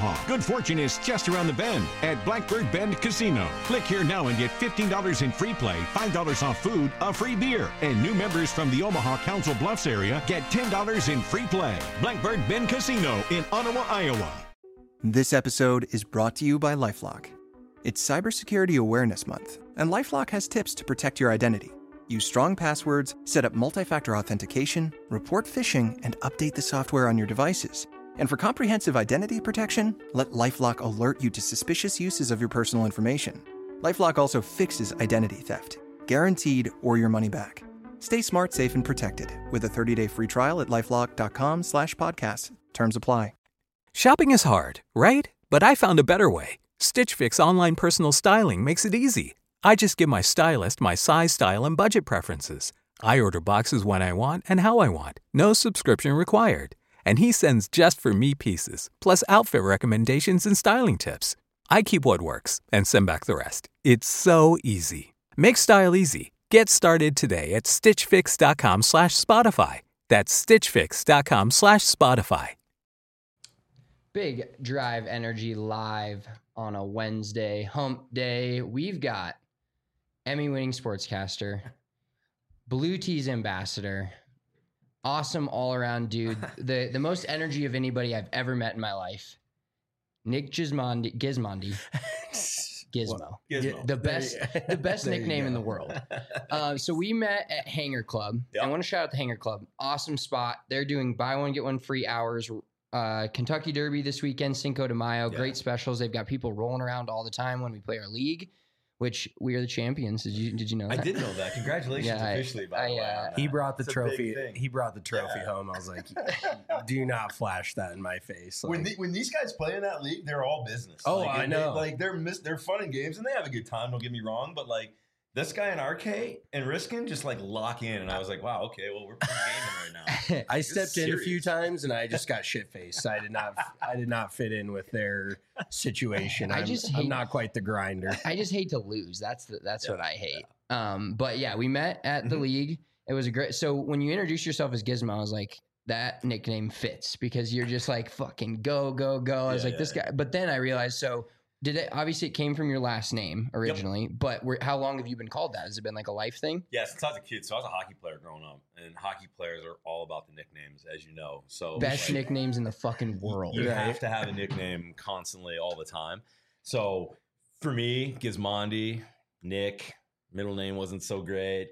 Omaha. Good fortune is just around the bend at Blackbird Bend Casino. Click here now and get $15 in free play, $5 off food, a free beer. And new members from the Omaha Council Bluffs area get $10 in free play. Blackbird Bend Casino in Ottawa, Iowa. This episode is brought to you by LifeLock. It's Cybersecurity Awareness Month, and LifeLock has tips to protect your identity. Use strong passwords, set up multi-factor authentication, report phishing, and update the software on your devices. And for comprehensive identity protection, let LifeLock alert you to suspicious uses of your personal information. LifeLock also fixes identity theft, guaranteed or your money back. Stay smart, safe, and protected with a 30-day free trial at LifeLock.com/podcast. Terms apply. Shopping is hard, right? But I found a better way. Stitch Fix online personal styling makes it easy. I just give my stylist my size, style, and budget preferences. I order boxes when I want and how I want. No subscription required. And he sends just for me pieces, plus outfit recommendations and styling tips. I keep what works and send back the rest. It's so easy. Make style easy. Get started today at stitchfix.com/Spotify. That's stitchfix.com/Spotify. Big Drive Energy live on a Wednesday, hump day. We've got Emmy-winning sportscaster, Blue Tees ambassador, awesome all-around dude, the most energy of anybody I've ever met in my life, Nick Gismondi. Gizmo. Gizmo. The best nickname in the world. So we met at Hanger Club. Yep. I want to shout out the Hanger Club. Awesome spot. They're doing buy one, get one free hours. Kentucky Derby this weekend, Cinco de Mayo. Yeah. Great specials. They've got people rolling around all the time when we play our league, which we are the champions. Did you know that? I did know that. Congratulations officially, by the way. He brought the trophy. He brought the trophy home. I was like, do not flash that in my face. Like, when these guys play in that league, they're all business. Oh, like, I know. They're fun and games, and they have a good time. Don't get me wrong, but like this guy and RK and Riskin just like lock in, and I was like, wow, okay, well we're playing gaming right now. I stepped in a few times, and I just got shit faced. I did not fit in with their situation. I'm not quite the grinder. I just hate to lose. That's what I hate. But yeah, we met at the league. It was a great. So when you introduced yourself as Gizmo, I was like, that nickname fits because you're just like fucking go. I was like, this guy. But then I realized, so did it? Obviously, it came from your last name originally. Yep. But how long have you been called that? Has it been like a life thing? Yeah, since I was a kid. So I was a hockey player growing up, and hockey players are all about the nicknames, as you know. So best nicknames in the fucking world. You have to have a nickname constantly, all the time. So for me, Gizmondi, Nick, middle name wasn't so great.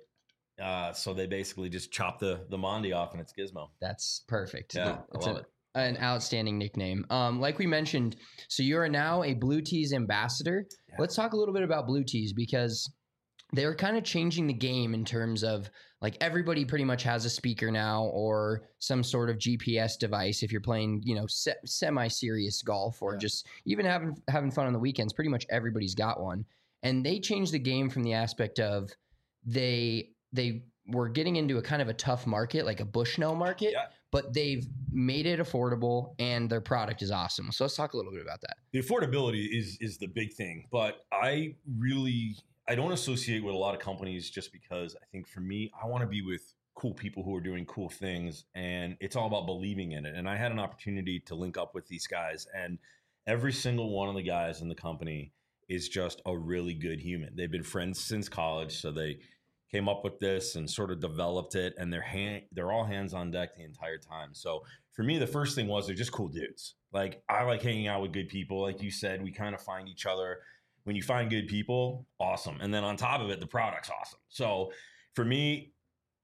So they basically just chopped the Mondi off, and it's Gizmo. That's perfect. Yeah, I love it. An outstanding nickname. Like we mentioned, so you are now a Blue Tees ambassador. Yeah. Let's talk a little bit about Blue Tees because they're kind of changing the game in terms of like everybody pretty much has a speaker now or some sort of GPS device. If you're playing, semi-serious golf or just even having fun on the weekends, pretty much everybody's got one. And they changed the game from the aspect of they were getting into a kind of a tough market, like a Bushnell market. Yeah. But they've made it affordable, and their product is awesome. So let's talk a little bit about that. The affordability is the big thing, but I don't associate with a lot of companies just because I think for me, I want to be with cool people who are doing cool things, and it's all about believing in it. And I had an opportunity to link up with these guys, and every single one of the guys in the company is just a really good human. They've been friends since college, so they came up with this and sort of developed it, and they're all hands on deck the entire time. So for me, the first thing was they're just cool dudes. Like I like hanging out with good people. Like you said, we kind of find each other. When you find good people, awesome. And then on top of it, the product's awesome. So for me,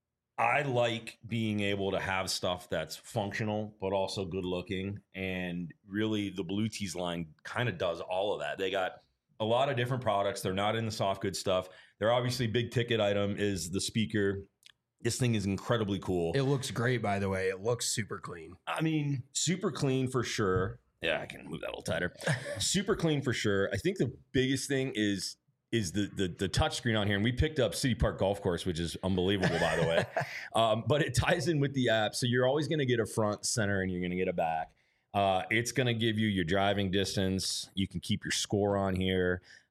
I like being able to have stuff that's functional, but also good looking. And really the Blue Tees line kind of does all of that. They got a lot of different products. They're not in the soft good stuff. They're obviously big ticket item is the speaker. This thing is incredibly cool. It looks great, by the way. It looks super clean. I mean, super clean for sure. Yeah, I can move that a little tighter. Super clean for sure. I think the biggest thing is the touch screen on here. And we picked up City Park Golf Course, which is unbelievable, by the way. But it ties in with the app. So you're always going to get a front, center, and you're going to get a back. It's going to give you your driving distance. You can keep your score on here.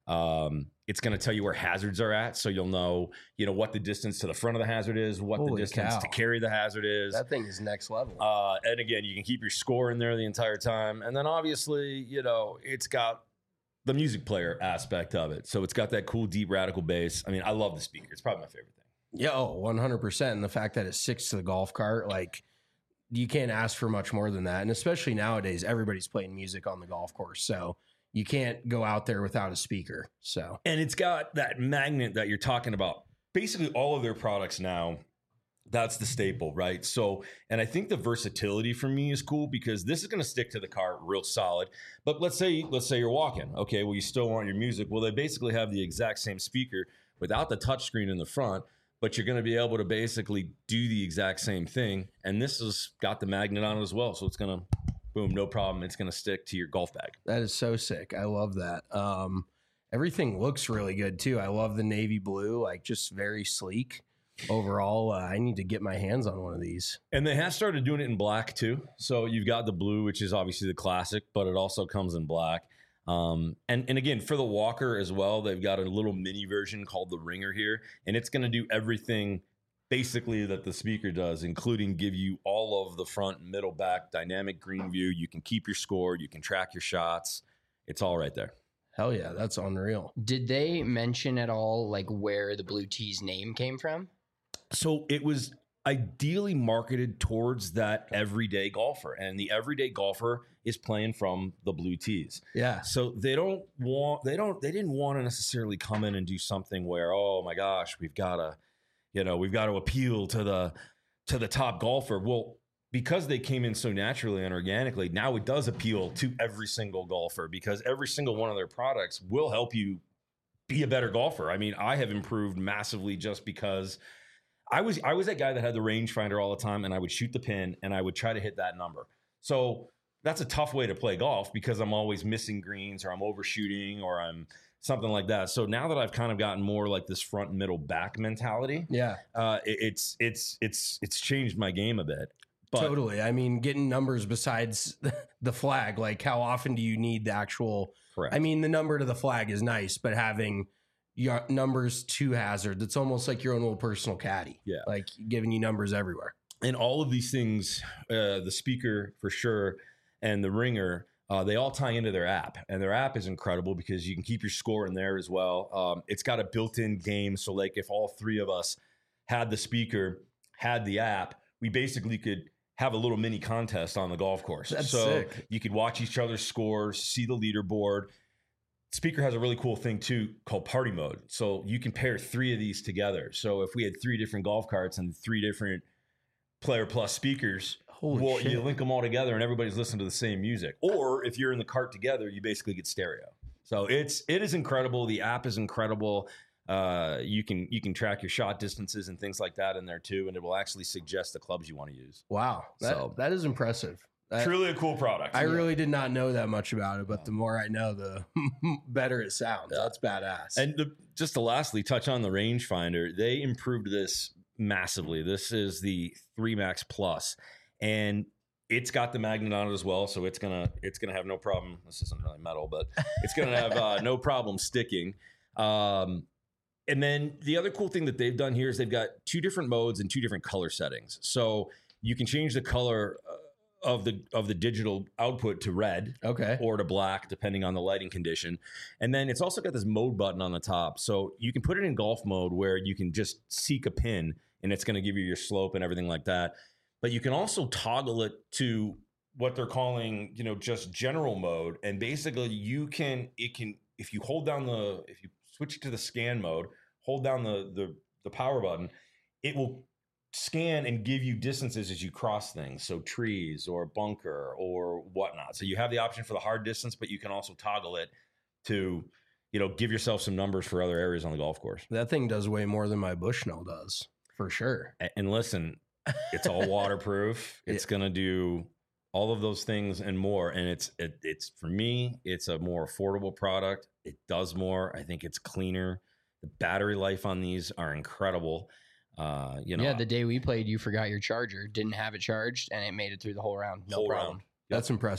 It's going to tell you where hazards are at, so you'll know, what the distance to the front of the hazard is, what the distance to carry the hazard is. That thing is next level. And again, you can keep your score in there the entire time. And then obviously, it's got the music player aspect of it. So it's got that cool, deep, radical bass. I mean, I love the speaker. It's probably my favorite thing. Yeah, 100%. And the fact that it sticks to the golf cart, like, you can't ask for much more than that. And especially nowadays, everybody's playing music on the golf course. So you can't go out there without a speaker. So, and it's got that magnet that you're talking about. Basically, all of their products now, that's the staple, right? So, and I think the versatility for me is cool because this is going to stick to the car real solid. But let's say you're walking. Okay, well, you still want your music. Well, they basically have the exact same speaker without the touchscreen in the front, but you're going to be able to basically do the exact same thing. And this has got the magnet on it as well. So it's going to, boom, no problem. It's going to stick to your golf bag. That is so sick. I love that. Everything looks really good too. I love the navy blue, like just very sleek. Overall, I need to get my hands on one of these. And they have started doing it in black too. So you've got the blue, which is obviously the classic, but it also comes in black. And again, for the walker as well, they've got a little mini version called the Ringer here, and it's going to do everything basically that the speaker does, including give you all of the front, middle, back, dynamic green view. You can keep your score. You can track your shots. It's all right there. Hell yeah, that's unreal. Did they mention at all like where the Blue Tees name came from? So it was ideally marketed towards that everyday golfer, and the everyday golfer is playing from the Blue Tees. Yeah. So they didn't want to necessarily come in and do something where, oh my gosh, we've got to appeal to the top golfer. Well, because they came in so naturally and organically, now it does appeal to every single golfer because every single one of their products will help you be a better golfer. I mean, I have improved massively just because I was that guy that had the rangefinder all the time, and I would shoot the pin and I would try to hit that number. So that's a tough way to play golf because I'm always missing greens or I'm overshooting or I'm something like that. So now that I've kind of gotten more like this front, middle, back mentality, it's changed my game a bit. But totally. I mean, getting numbers besides the flag, like how often do you need the actual? Correct. I mean, the number to the flag is nice, but having your numbers to hazard, it's almost like your own little personal caddy. Yeah. Like giving you numbers everywhere. And all of these things, the speaker for sure, and the Ringer, they all tie into their app. And their app is incredible because you can keep your score in there as well. It's got a built-in game. So like if all three of us had the speaker, had the app, we basically could have a little mini contest on the golf course. That's so sick. You could watch each other's scores, see the leaderboard. Speaker has a really cool thing too called party mode. So you can pair three of these together. So if we had three different golf carts and three different Player Plus speakers, you link them all together and everybody's listening to the same music. Or if you're in the cart together, you basically get stereo. So it is incredible. The app is incredible. You can track your shot distances and things like that in there too, and it will actually suggest the clubs you want to use. Wow, that is impressive. Truly a cool product. I really did not know that much about it, but the more I know, the better it sounds. Yeah. That's badass. And just to lastly touch on the rangefinder, they improved this massively. This is the 3 Max Plus, and it's got the magnet on it as well, so it's gonna have no problem. This isn't really metal, but it's gonna have no problem sticking. And then the other cool thing that they've done here is they've got 2 different modes and 2 different color settings. So you can change the color of the digital output to red, or to black, depending on the lighting condition. And then it's also got this mode button on the top. So you can put it in golf mode where you can just seek a pin and it's going to give you your slope and everything like that. But you can also toggle it to what they're calling, just general mode. And basically if you switch it to the scan mode, hold down the power button, it will scan and give you distances as you cross things. So trees or bunker or whatnot. So you have the option for the hard distance, but you can also toggle it to, give yourself some numbers for other areas on the golf course. That thing does way more than my Bushnell does, for sure. And listen, it's all waterproof. It's going to do all of those things and more. And it's for me, it's a more affordable product. It does more. I think it's cleaner. The battery life on these are incredible. The day we played, you forgot your charger, didn't have it charged, and it made it through the whole round. No problem. Round. That's impressive.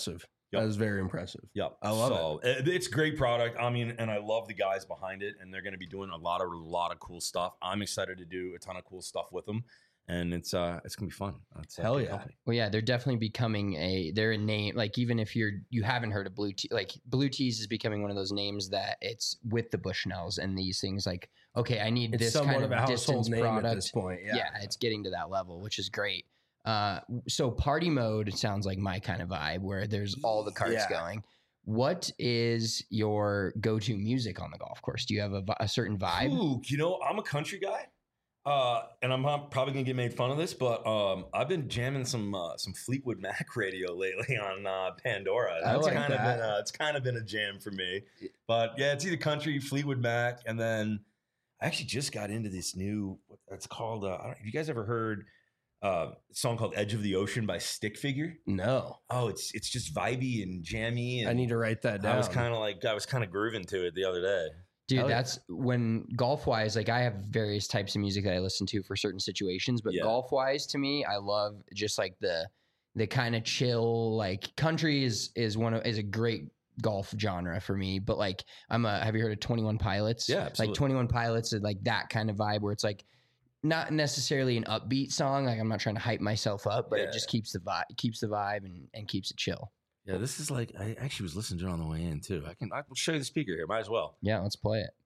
That was very impressive. Yep. I love it. It's a great product. I mean, and I love the guys behind it, and they're going to be doing a lot of cool stuff. I'm excited to do a ton of cool stuff with them, and it's going to be fun. Hell yeah. Company. Well, yeah, they're definitely becoming they're a name. Like, even if you haven't heard of Blue Tees, like Blue Tees is becoming one of those names that it's with the Bushnells and these things. Like, okay, I need this kind of a household distance name product at this point. Yeah, it's getting to that level, which is great. So party mode sounds like my kind of vibe, where there's all the carts going. What is your go-to music on the golf course? Do you have a certain vibe? Ooh, I'm a country guy, and I'm probably gonna get made fun of this, but I've been jamming some Fleetwood Mac radio lately on Pandora. It's kind of been a jam for me. But yeah, it's either country, Fleetwood Mac, and then I actually just got into this new. It's called. Have you guys ever heard? A song called Edge of the Ocean by Stick Figure? No. Oh, it's just vibey and jammy. And I need to write that down. I was kind of grooving to it the other day. Dude, that's when golf wise, like I have various types of music that I listen to for certain situations, but golf wise to me, I love just like the kind of chill, like country is a great golf genre for me. But like have you heard of 21 Pilots? Yeah, absolutely. Like 21 Pilots is like that kind of vibe where it's like not necessarily an upbeat song. Like I'm not trying to hype myself up, but it just keeps the vibe and keeps it chill. Yeah, this is like I actually was listening to it on the way in too. I can show you the speaker here. Might as well. Yeah, let's play it.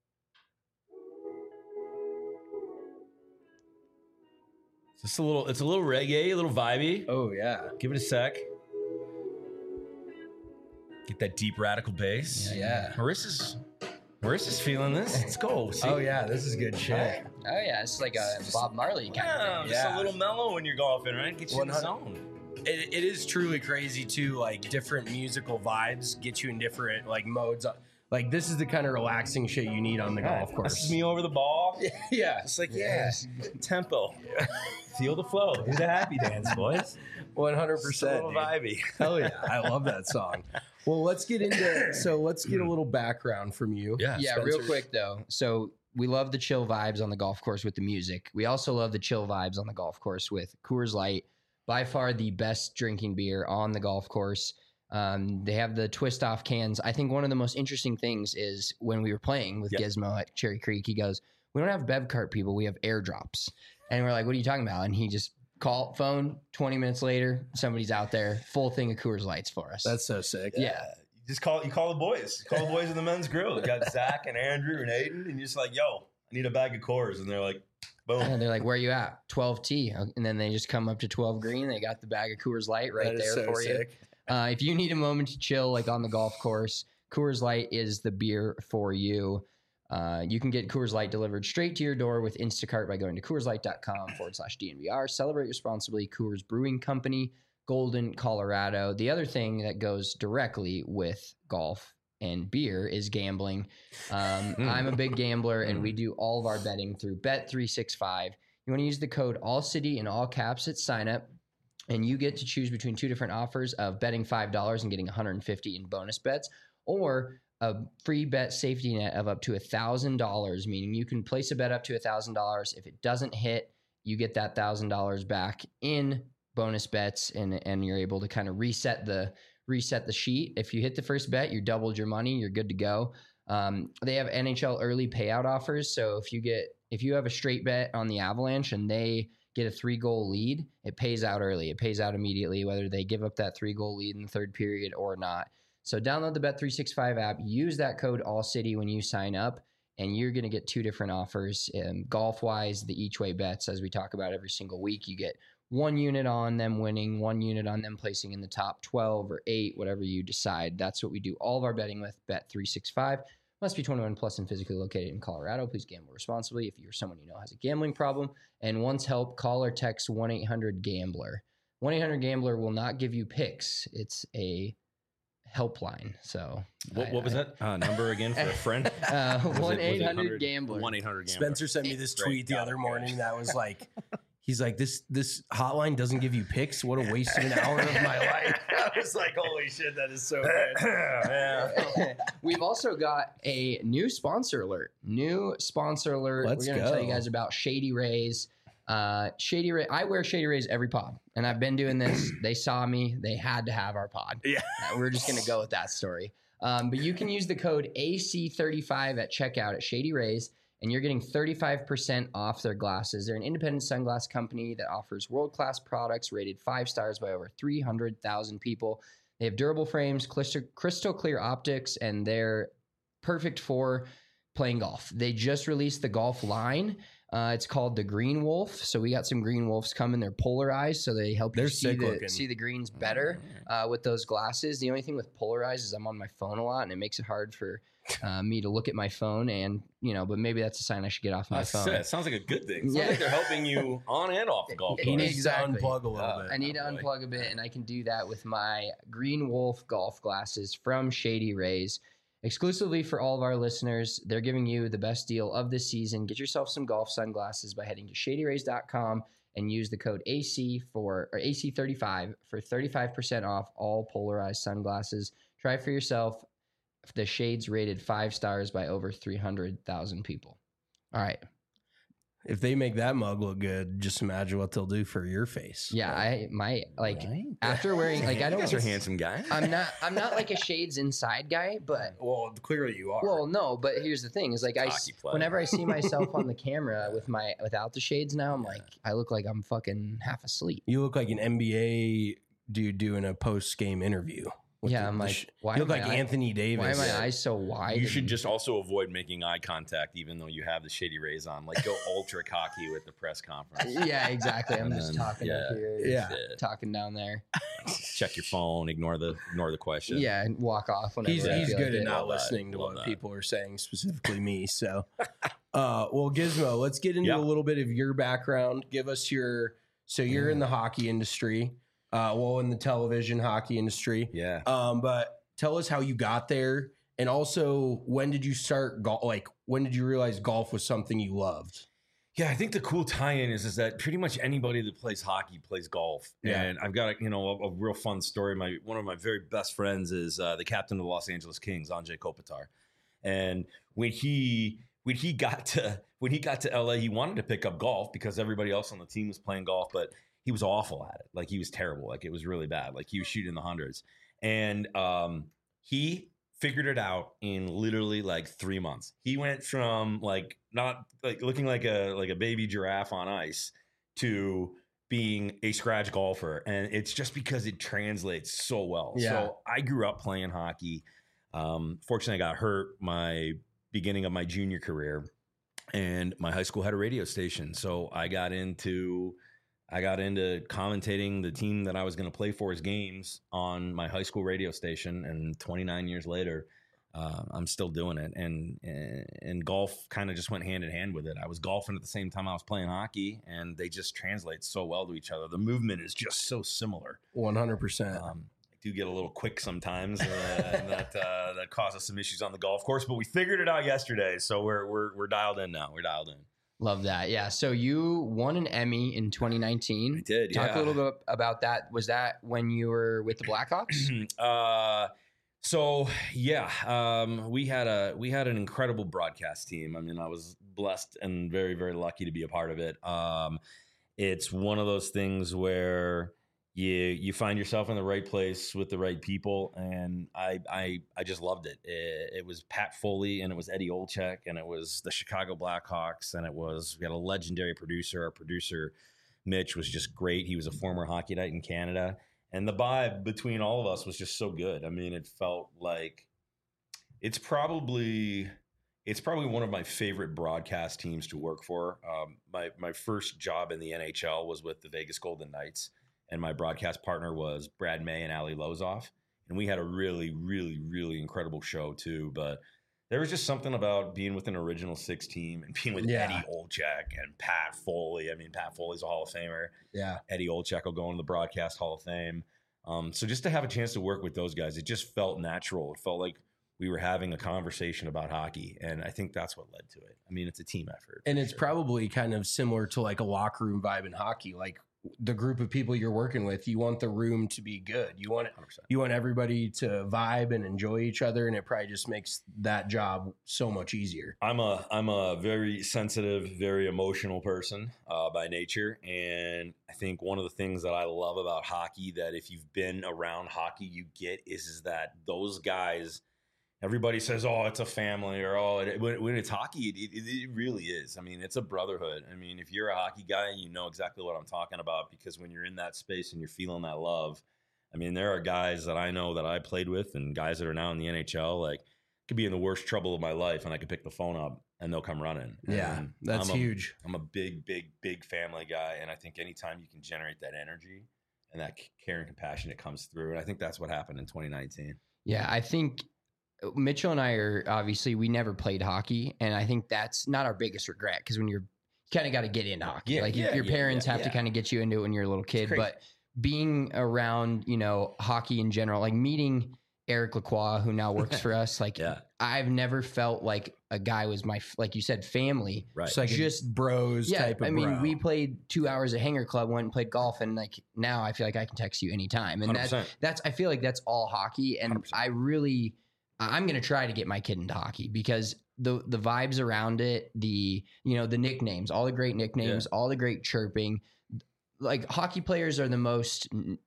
It's a little reggae, a little vibey. Oh yeah. Give it a sec. Get that deep radical bass. Yeah. Marissa's feeling this. Let's go. See? Oh yeah, this is good shit. Oh yeah, it's like a Bob Marley kind of thing. Just a little mellow when you're golfing, right? Get you in the zone. It is truly crazy too. Like different musical vibes get you in different like modes. Like this is the kind of relaxing shit you need on the golf course. This is me over the ball. Yeah, it's like tempo. Feel the flow. Do the happy dance, boys. 100%. A little vibey. Hell yeah, I love that song. Well, let's get a little background from you. Yeah, Spencer. real quick though. So we love the chill vibes on the golf course with the music. We also love the chill vibes on the golf course with Coors Light, by far the best drinking beer on the golf course. They have the twist off cans. I think one of the most interesting things is when we were playing with Gizmo at Cherry Creek, he goes, "We don't have Bev Cart people, we have airdrops." And we're like, "What are you talking about?" And he just phone 20 minutes later, somebody's out there, full thing of Coors Lights for us. That's so sick. Yeah. You call the boys. Call the boys in the men's grill. You got Zach and Andrew and Aiden, and you're just like, "Yo, I need a bag of Coors," and they're like, boom. And they're like, "Where are you at?" 12T. And then they just come up to 12 green. They got the bag of Coors Light right there so for sick. you. If you need a moment to chill, like on the golf course, Coors Light is the beer for you. You can get Coors Light delivered straight to your door with Instacart by going to CoorsLight.com/DNVR. Celebrate responsibly. Coors Brewing Company, Golden, Colorado. The other thing that goes directly with golf and beer is gambling. I'm a big gambler, and we do all of our betting through Bet365. You want to use the code ALLCITY in all caps at sign up, and you get to choose between two different offers of betting $5 and getting $150 in bonus bets, or a free bet safety net of up to $1,000, meaning you can place a bet up to $1,000. If it doesn't hit, you get that $1,000 back in bonus bets, and you're able to kind of reset the sheet. If you hit the first bet, you doubled your money, you're good to go. They have NHL early payout offers. So if you have a straight bet on the Avalanche and they get a 3-goal lead, it pays out early. It pays out immediately, whether they give up that 3-goal lead in the third period or not. So download the Bet365 app, use that code ALLCITY when you sign up, and you're going to get two different offers. Golf-wise, the each-way bets, as we talk about every single week, you get 1 unit on them winning, 1 unit on them placing in the top 12 or 8, whatever you decide. That's what we do all of our betting with. Bet365. Must be 21 plus and physically located in Colorado. Please gamble responsibly. If you're someone you know has a gambling problem and wants help, call or text 1-800-GAMBLER. 1-800-GAMBLER will not give you picks. It's a helpline. So what was that number again for a friend? 1-800-GAMBLER. 1-800-GAMBLER. Spencer sent me this tweet the other morning that was like, he's like, this hotline doesn't give you picks. What a waste of an hour of my life. I was like, holy shit, that is so good. Yeah. We've also got a new sponsor alert. Let's We're going to tell you guys about Shady Rays. Shady Ray, I wear Shady Rays every pod, and I've been doing this. They saw me. They had to have our pod. Yeah. We're just going to go with that story. But you can use the code AC35 at checkout at Shady Rays, and you're getting 35% off their glasses. They're an independent sunglass company that offers world-class products rated 5 stars by over 300,000 people. They have durable frames, crystal clear optics, and they're perfect for playing golf. They just released the golf line. It's called the Green Wolf. So we got some Green Wolves coming. They're polarized, so they help you see the greens better with those glasses. The only thing with polarized is I'm on my phone a lot, and it makes it hard for me to look at my phone. And but maybe that's a sign I should get off my phone. It sounds like a good thing. It sounds like they're helping you on and off the golf course. You need to unplug a little bit. I need to unplug a bit, and I can do that with my Green Wolf golf glasses from Shady Rays. Exclusively for all of our listeners, they're giving you the best deal of the season. Get yourself some golf sunglasses by heading to shadyrays.com and use the code AC or AC35 for 35% off all polarized sunglasses. Try for yourself. The shades rated 5 stars by over 300,000 people. All right. If they make that mug look good, just imagine what they'll do for your face. Yeah, after wearing I don't. You guys are handsome guys. I'm not like a shades inside guy, but Well, clearly you are. well, no. But here's the thing: is like whenever I see myself on the camera without the shades now, I'm like I look like I'm fucking half asleep. You look like an NBA dude doing a post-game interview. Yeah, I'm like, why you look am like I- Anthony Davis. Why are my eyes so wide? You should just also avoid making eye contact, even though you have the Shady Rays on. Like, go ultra cocky with the press conference. Yeah, exactly. I'm And just then, talking up here, Yeah. talking down there. Check your phone. Ignore the question. Yeah, and walk off whenever He's I feel good like at it. not Love that. listening to Love what that. people are saying, specifically me. So, well, Gizmo, let's get into a little bit of your background. Give us you're in the hockey industry, in the television hockey industry. Yeah. But tell us how you got there, and also when did you start golf? Like, when did you realize golf was something you loved? Yeah, I think the cool tie-in is that pretty much anybody that plays hockey plays golf. Yeah. And I've got a real fun story. One of my very best friends is the captain of the Los Angeles Kings, Anze Kopitar. And when he got to LA, he wanted to pick up golf because everybody else on the team was playing golf, but he was awful at it. Like, he was terrible. Like, it was really bad. Like, he was shooting in the hundreds. And he figured it out in literally like 3 months. He went from not looking like a baby giraffe on ice to being a scratch golfer. And it's just because it translates so well. Yeah. So I grew up playing hockey. Fortunately, I got hurt my beginning of my junior career, and my high school had a radio station. So I got into commentating the team that I was going to play for his games on my high school radio station. And 29 years later, I'm still doing it. And golf kind of just went hand in hand with it. I was golfing at the same time I was playing hockey, and they just translate so well to each other. The movement is just so similar. 100%. I do get a little quick sometimes, and that causes some issues on the golf course, but we figured it out yesterday. So we're dialed in now. We're dialed in. Love that. Yeah. So you won an Emmy in 2019. I did. Talk a little bit about that. Was that when you were with the Blackhawks? We had an incredible broadcast team. I mean, I was blessed and very, very lucky to be a part of it. It's one of those things where you find yourself in the right place with the right people, and I just loved it. It was Pat Foley, and it was Eddie Olczyk, and it was the Chicago Blackhawks, and we had a legendary producer. Our producer Mitch was just great. He was a former Hockey Night in Canada, and the vibe between all of us was just so good. I mean, it felt like it's probably one of my favorite broadcast teams to work for. My first job in the NHL was with the Vegas Golden Knights. And my broadcast partner was Brad May and Ali Lozoff. And we had a really, really, really incredible show too. But there was just something about being with an original six team and being with Eddie Olczyk and Pat Foley. I mean, Pat Foley's a Hall of Famer. Yeah. Eddie Olczyk will go into the Broadcast Hall of Fame. So just to have a chance to work with those guys, it just felt natural. It felt like we were having a conversation about hockey. And I think that's what led to it. I mean, it's a team effort. And it's probably kind of similar to like a locker room vibe in hockey. Like the group of people you're working with, you want the room to be good. You want 100%. you want everybody to vibe and enjoy each other, and it probably just makes that job so much easier. I'm a very sensitive, very emotional person by nature, and I think one of the things that I love about hockey, that if you've been around hockey, you get is that those guys. Everybody says, "Oh, it's a family," or "Oh," when it's hockey, it really is. I mean, it's a brotherhood. I mean, if you're a hockey guy, you know exactly what I'm talking about, because when you're in that space and you're feeling that love, I mean, there are guys that I know that I played with and guys that are now in the NHL, like, could be in the worst trouble of my life, and I could pick the phone up and they'll come running. Yeah, And that's huge. I'm a big family guy, and I think anytime you can generate that energy and that care and compassion, it comes through. And I think that's what happened in 2019. Yeah, I think Mitchell and I are obviously, we never played hockey, and I think that's not our biggest regret, because when you kind of got to get into hockey. Your parents have to kind of get you into it when you're a little kid. But being around, hockey in general, like meeting Eric Lacroix, who now works for us, like I've never felt like a guy was my, like you said, family. Right. It's like just bros type of bro. We played 2 hours at Hanger Club, went and played golf, and like now I feel like I can text you anytime. And 100%. that's I feel like that's all hockey. And 100%. I'm going to try to get my kid into hockey, because the vibes around it, the nicknames, all the great nicknames, all the great chirping, like hockey players are the most,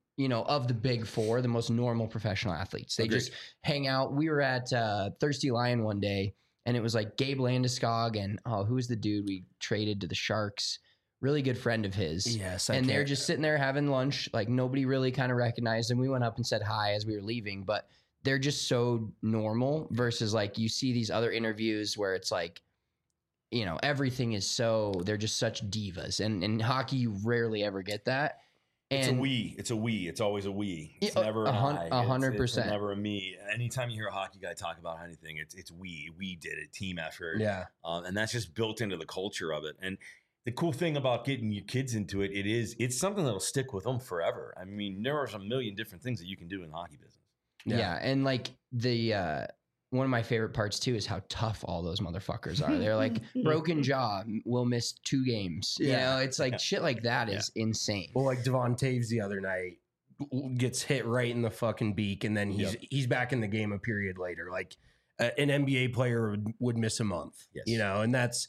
of the big four, the most normal professional athletes. They just hang out. We were at Thirsty Lion one day, and it was like Gabe Landeskog and, who was the dude we traded to the Sharks? Really good friend of his. Yes. And they're just sitting there having lunch. Like nobody really kind of recognized them. We went up and said hi as we were leaving, but they're just so normal versus like you see these other interviews where it's like, everything is they're just such divas. And in hockey, you rarely ever get that. And It's a we. It's always a we. It's never an I. 100%. It's never a me. Anytime you hear a hockey guy talk about anything, it's we. We did it. Team effort. Yeah. And that's just built into the culture of it. And the cool thing about getting your kids into it's something that'll stick with them forever. I mean, there are a million different things that you can do in the hockey business. Yeah. And like the one of my favorite parts too is how tough all those motherfuckers are. They're like broken jaw, will miss 2 games. It's like shit like that is insane. Well, like Devon Taves the other night gets hit right in the fucking beak, and then he's back in the game a period later. Like an NBA player would miss a month. Yes. And that's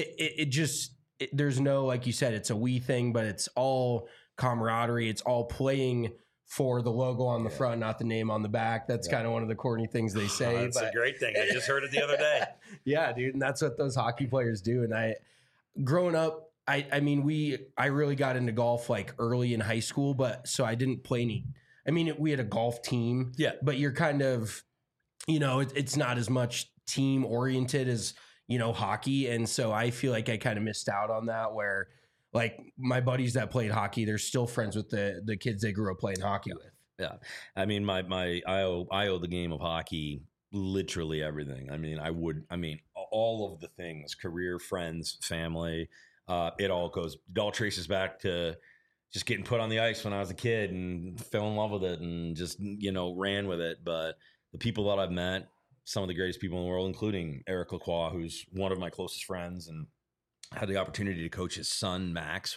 there's no, like you said, it's a we thing, but it's all camaraderie. It's all playing for the logo on the front, not the name on the back. That's kind of one of the corny things they say. That's a great thing. I just heard it the other day. Yeah, dude. And that's what those hockey players do. And growing up, I really got into golf like early in high school, but so I didn't play any. I mean, we had a golf team. Yeah. But you're kind of, it's not as much team oriented as, hockey. And so I feel like I kind of missed out on that, where like my buddies that played hockey, they're still friends with the kids they grew up playing hockey with. Yeah. I mean, I owe the game of hockey literally everything. I mean, all of the things, career, friends, family, it all traces back to just getting put on the ice when I was a kid and fell in love with it and just, ran with it. But the people that I've met, some of the greatest people in the world, including Eric Lacroix, who's one of my closest friends, and had the opportunity to coach his son, Max,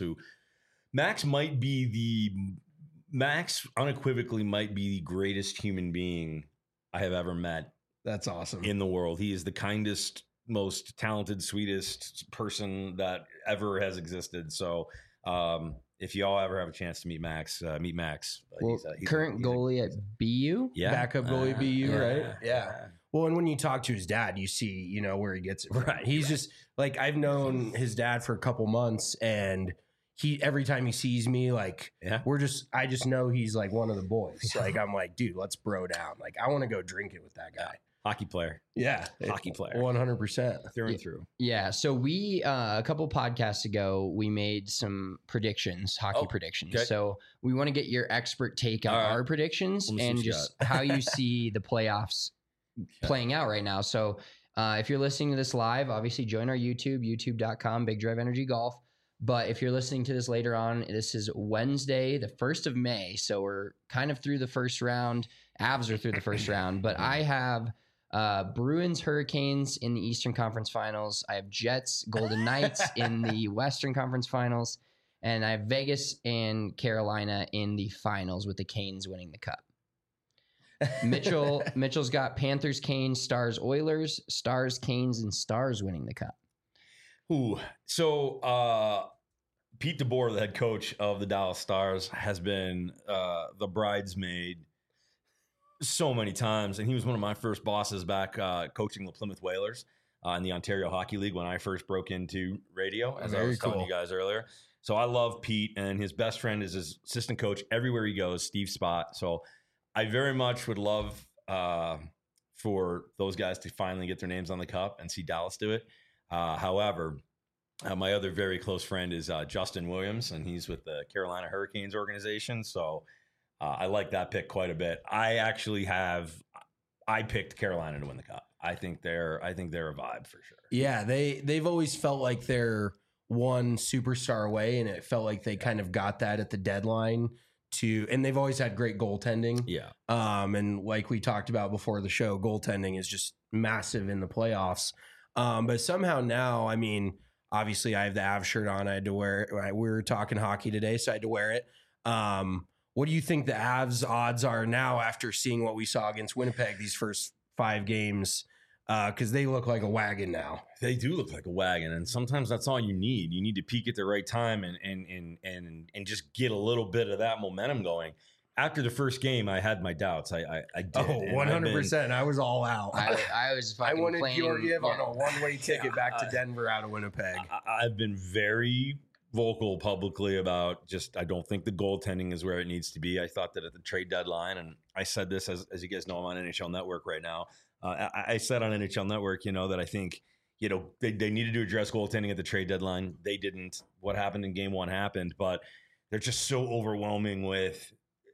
Max unequivocally might be the greatest human being I have ever met. That's awesome. In the world. He is the kindest, most talented, sweetest person that ever has existed. So if you all ever have a chance to meet Max, meet Max. Well, he's current goalie at BU? Yeah. Backup goalie at BU, right? Yeah. Well, and when you talk to his dad, you see, where he gets it from. Right. He's just like, I've known his dad for a couple months, and every time he sees me, like, I just know he's like one of the boys. Like, I'm like, dude, let's bro down. Like, I want to go drinking with that guy. Hockey player. Yeah. Hockey player. 100%. Through and through. Yeah. So we, a couple podcasts ago, we made some predictions, hockey predictions. Okay. So we want to get your expert take on our predictions and just how you see the playoffs playing out right now. So if you're listening to this live, obviously join our youtube.com, Big Drive Energy Golf. But if you're listening to this later on, this is Wednesday, the 1st of May. So we're kind of through the first round. Avs are through the first round. But I have Bruins, Hurricanes in the Eastern Conference Finals. I have Jets, Golden Knights in the Western Conference Finals. And I have Vegas and Carolina in the finals with the Canes winning the cup. Mitchell's got Panthers, Canes, Stars, Oilers, Stars, Canes, and Stars winning the cup. Ooh, so Pete DeBoer, the head coach of the Dallas Stars, has been the bridesmaid so many times, and he was one of my first bosses back coaching the Plymouth Whalers in the Ontario Hockey League when I first broke into radio, as I was telling you guys earlier. So I love Pete, and his best friend is his assistant coach everywhere he goes, Steve Spott. So I very much would love for those guys to finally get their names on the cup and see Dallas do it. However, my other very close friend is Justin Williams, and he's with the Carolina Hurricanes organization. So I like that pick quite a bit. I picked Carolina to win the cup. I think they're a vibe for sure. Yeah, they've always felt like they're one superstar away, and it felt like they kind of got that at the deadline and they've always had great goaltending. Yeah. And like we talked about before the show, goaltending is just massive in the playoffs. But somehow now, I mean, obviously I have the Avs shirt on. I had to wear it. We were talking hockey today, so I had to wear it. What do you think the Avs odds are now after seeing what we saw against Winnipeg these first 5 games? Because they look like a wagon now. They do look like a wagon, and sometimes that's all you need. You need to peak at the right time and just get a little bit of that momentum going. After the first game, I had my doubts. I did. Oh, 100%. I was all out. I was fucking I wanted playing, Georgiev on a one-way ticket back to Denver out of Winnipeg. I've been very vocal publicly about I don't think the goaltending is where it needs to be. I thought that at the trade deadline, and I said this as you guys know, I'm on NHL Network right now. I said on NHL Network, that I think, they needed to address goaltending at the trade deadline. They didn't. What happened in game 1 happened, but they're just so overwhelming with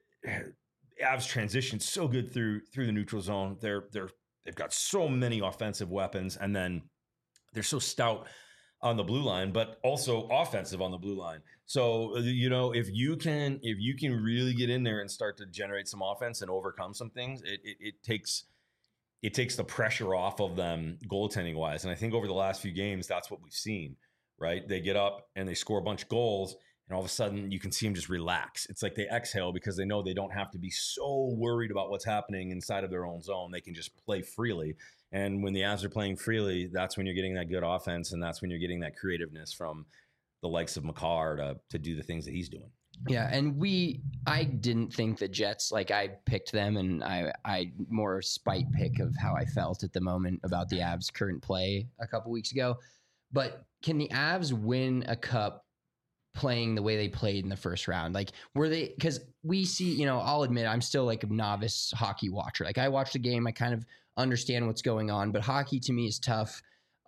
Avs transition so good through the neutral zone. They've got so many offensive weapons, and then they're so stout on the blue line, but also offensive on the blue line. So, if you can really get in there and start to generate some offense and overcome some things, it takes the pressure off of them goaltending wise. And I think over the last few games, that's what we've seen, right? They get up and they score a bunch of goals, and all of a sudden you can see them just relax. It's like they exhale because they know they don't have to be so worried about what's happening inside of their own zone. They can just play freely. And when the Avs are playing freely, that's when you're getting that good offense, and that's when you're getting that creativeness from the likes of Makar to do the things that he's doing. Yeah, and I didn't think the Jets, I picked them, and I more spite pick of how I felt at the moment about the Avs' current play a couple weeks ago. But can the Avs win a cup playing the way they played in the first round? Were they, because we see, I'll admit I'm still a novice hockey watcher. I watch the game, I kind of understand what's going on, but hockey to me is tough,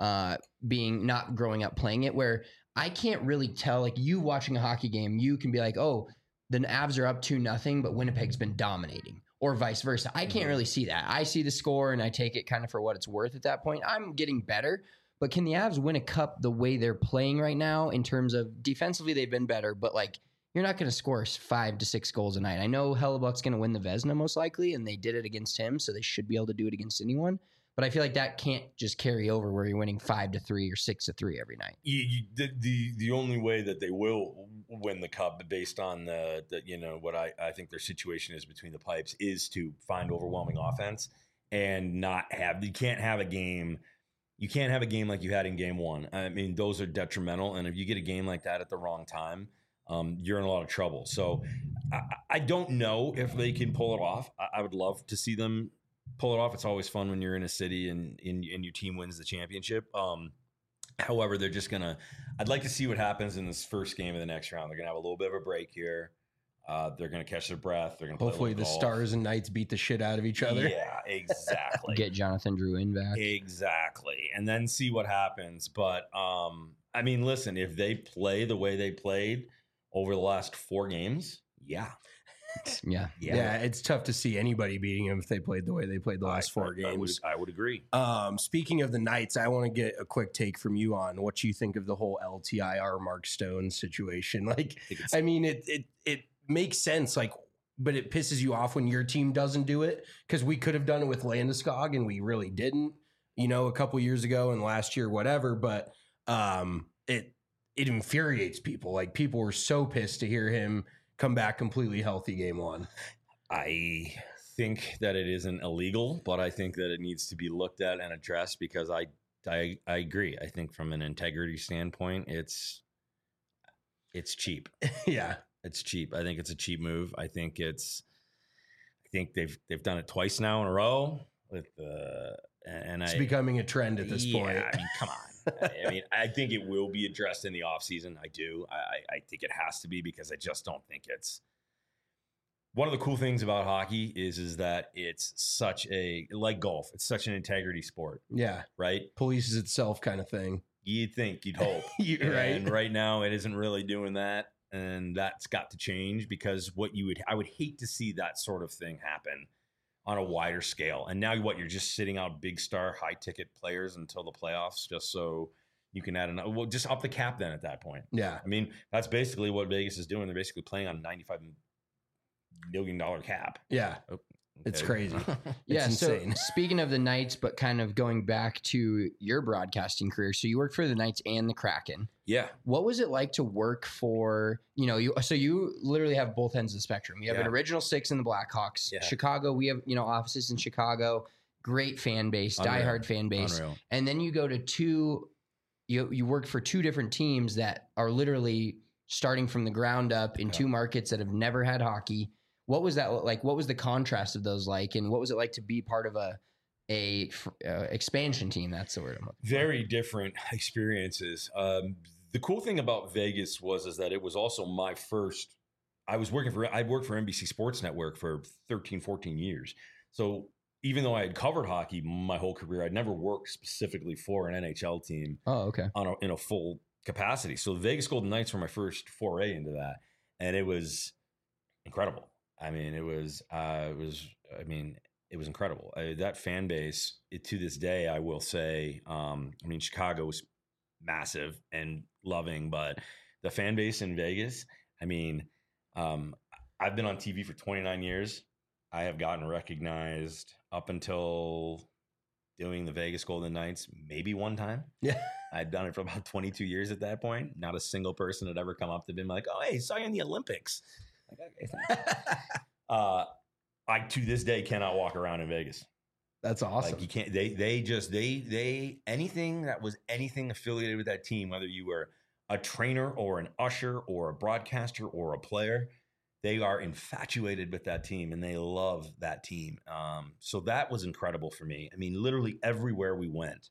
being not growing up playing it, where I can't really tell, you watching a hockey game, you can be like, oh, the Avs are up 2-0, but Winnipeg's been dominating, or vice versa. I can't really see that. I see the score and I take it kind of for what it's worth at that point. I'm getting better, but can the Avs win a cup the way they're playing right now in terms of defensively they've been better, but you're not going to score 5 to 6 goals a night. I know Hellebuck's going to win the Vezina most likely, and they did it against him, so they should be able to do it against anyone. But I feel like that can't just carry over where you're winning 5-3 or 6-3 every night. The only way that they will win the cup, based on what I think their situation is between the pipes, is to find overwhelming offense and not have. You can't have a game like you had in game 1. I mean, those are detrimental, and if you get a game like that at the wrong time, you're in a lot of trouble. So I don't know if they can pull it off. I would love to see them pull it off. It's always fun when you're in a city and your team wins the championship. However, they're just I'd like to see what happens in this first game of the next round. They're going to have a little bit of a break here. They're going to catch their breath. They're going to hopefully the Stars and Knights beat the shit out of each other. Yeah, exactly. Get Jonathan Drouin back. Exactly. And then see what happens. But I mean, listen, if they play the way they played over the last 4 games, yeah. Yeah. It's tough to see anybody beating them if they played the way they played the last 4 games. I would agree. Speaking of the Knights, I want to get a quick take from you on what you think of the whole LTIR Mark Stone situation. I mean, it makes sense, but it pisses you off when your team doesn't do it, because we could have done it with Landeskog and we really didn't, a couple years ago and last year, whatever. But it infuriates people. Like, people were so pissed to hear him come back completely healthy game one. I think that it isn't illegal, but I think that it needs to be looked at and addressed because I agree. I think from an integrity standpoint, it's cheap. Yeah. It's cheap. I think it's a cheap move. I think they've done it twice now in a row with it's becoming a trend at this point. I mean, come on. I mean, I think it will be addressed in the offseason. I do. I think it has to be because I just don't think it's one of the cool things about hockey is that it's such like golf. It's such an integrity sport. Yeah. Right. Polices itself kind of thing. You'd think, you'd hope. Right. And right now it isn't really doing that. And that's got to change because I would hate to see that sort of thing happen on a wider scale. And now you're just sitting out big star, high ticket players until the playoffs, just so you can add another. Well, just up the cap then at that point. Yeah. I mean, that's basically what Vegas is doing. They're basically playing on $95 million cap. Yeah. Okay. It's crazy. Yeah. It's so insane. speaking of the Knights, but kind of going back to your broadcasting career. So you worked for the Knights and the Kraken. Yeah. What was it like to work for, you literally have both ends of the spectrum. You have an original six in the Blackhawks. Yeah. Chicago, we have, offices in Chicago, great fan base, diehard fan base. Unreal. And then you go to you work for two different teams that are literally starting from the ground up in two markets that have never had hockey. What was that like? What was the contrast of those like? And what was it like to be part of a expansion team? That's the word I'm looking for. Very different experiences. The cool thing about Vegas was that it was also my first. I worked for NBC Sports Network for 13, 14 years. So even though I had covered hockey my whole career, I'd never worked specifically for an NHL team. Oh, okay. In a full capacity. So the Vegas Golden Knights were my first foray into that, and it was incredible. I mean, it was incredible. That fan base, to this day, I will say, Chicago was massive and loving, but the fan base in Vegas, I've been on TV for 29 years. I have gotten recognized up until doing the Vegas Golden Knights maybe one time. Yeah. I'd done it for about 22 years at that point. Not a single person had ever come up to me like, "Oh, hey, saw you in the Olympics." I to this day cannot walk around in Vegas. That's awesome. Like, you can't. They anything that was anything affiliated with that team, whether you were a trainer or an usher or a broadcaster or a player, they are infatuated with that team and they love that team. So that was incredible for me. I mean, literally everywhere we went,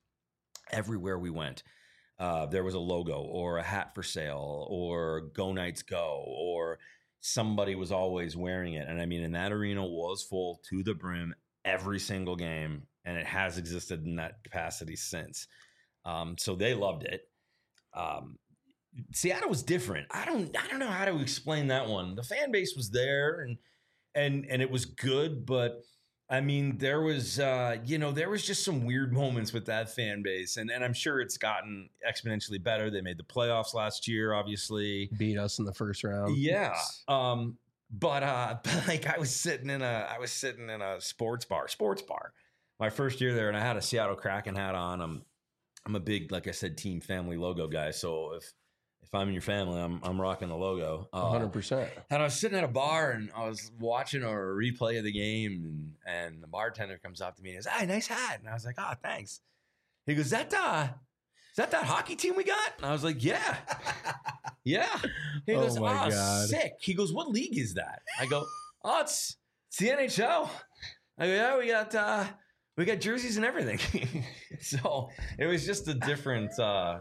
there was a logo or a hat for sale or Go Knights Go, or somebody was always wearing it. And and that arena was full to the brim every single game. And it has existed in that capacity since. So they loved it. Seattle was different. I don't know how to explain that one. The fan base was there and it was good, but there was just some weird moments with that fan base, and I'm sure it's gotten exponentially better. They made the playoffs last year, obviously. Beat us in the first round. Yeah. But I was sitting in a sports bar. My first year there, and I had a Seattle Kraken hat on. I'm a big, like I said, team family logo guy. So if I'm in your family, I'm rocking the logo. 100%. And I was sitting at a bar and I was watching a replay of the game, and the bartender comes up to me and says, "Hey, nice hat." And I was like, "Oh, thanks." He goes, Is that that hockey team we got?" And I was like, "Yeah." Yeah. He goes, Oh my God. Sick. He goes, "What league is that?" I go, "Oh, it's the NHL." I go, "Yeah, we got jerseys and everything." So it was just a different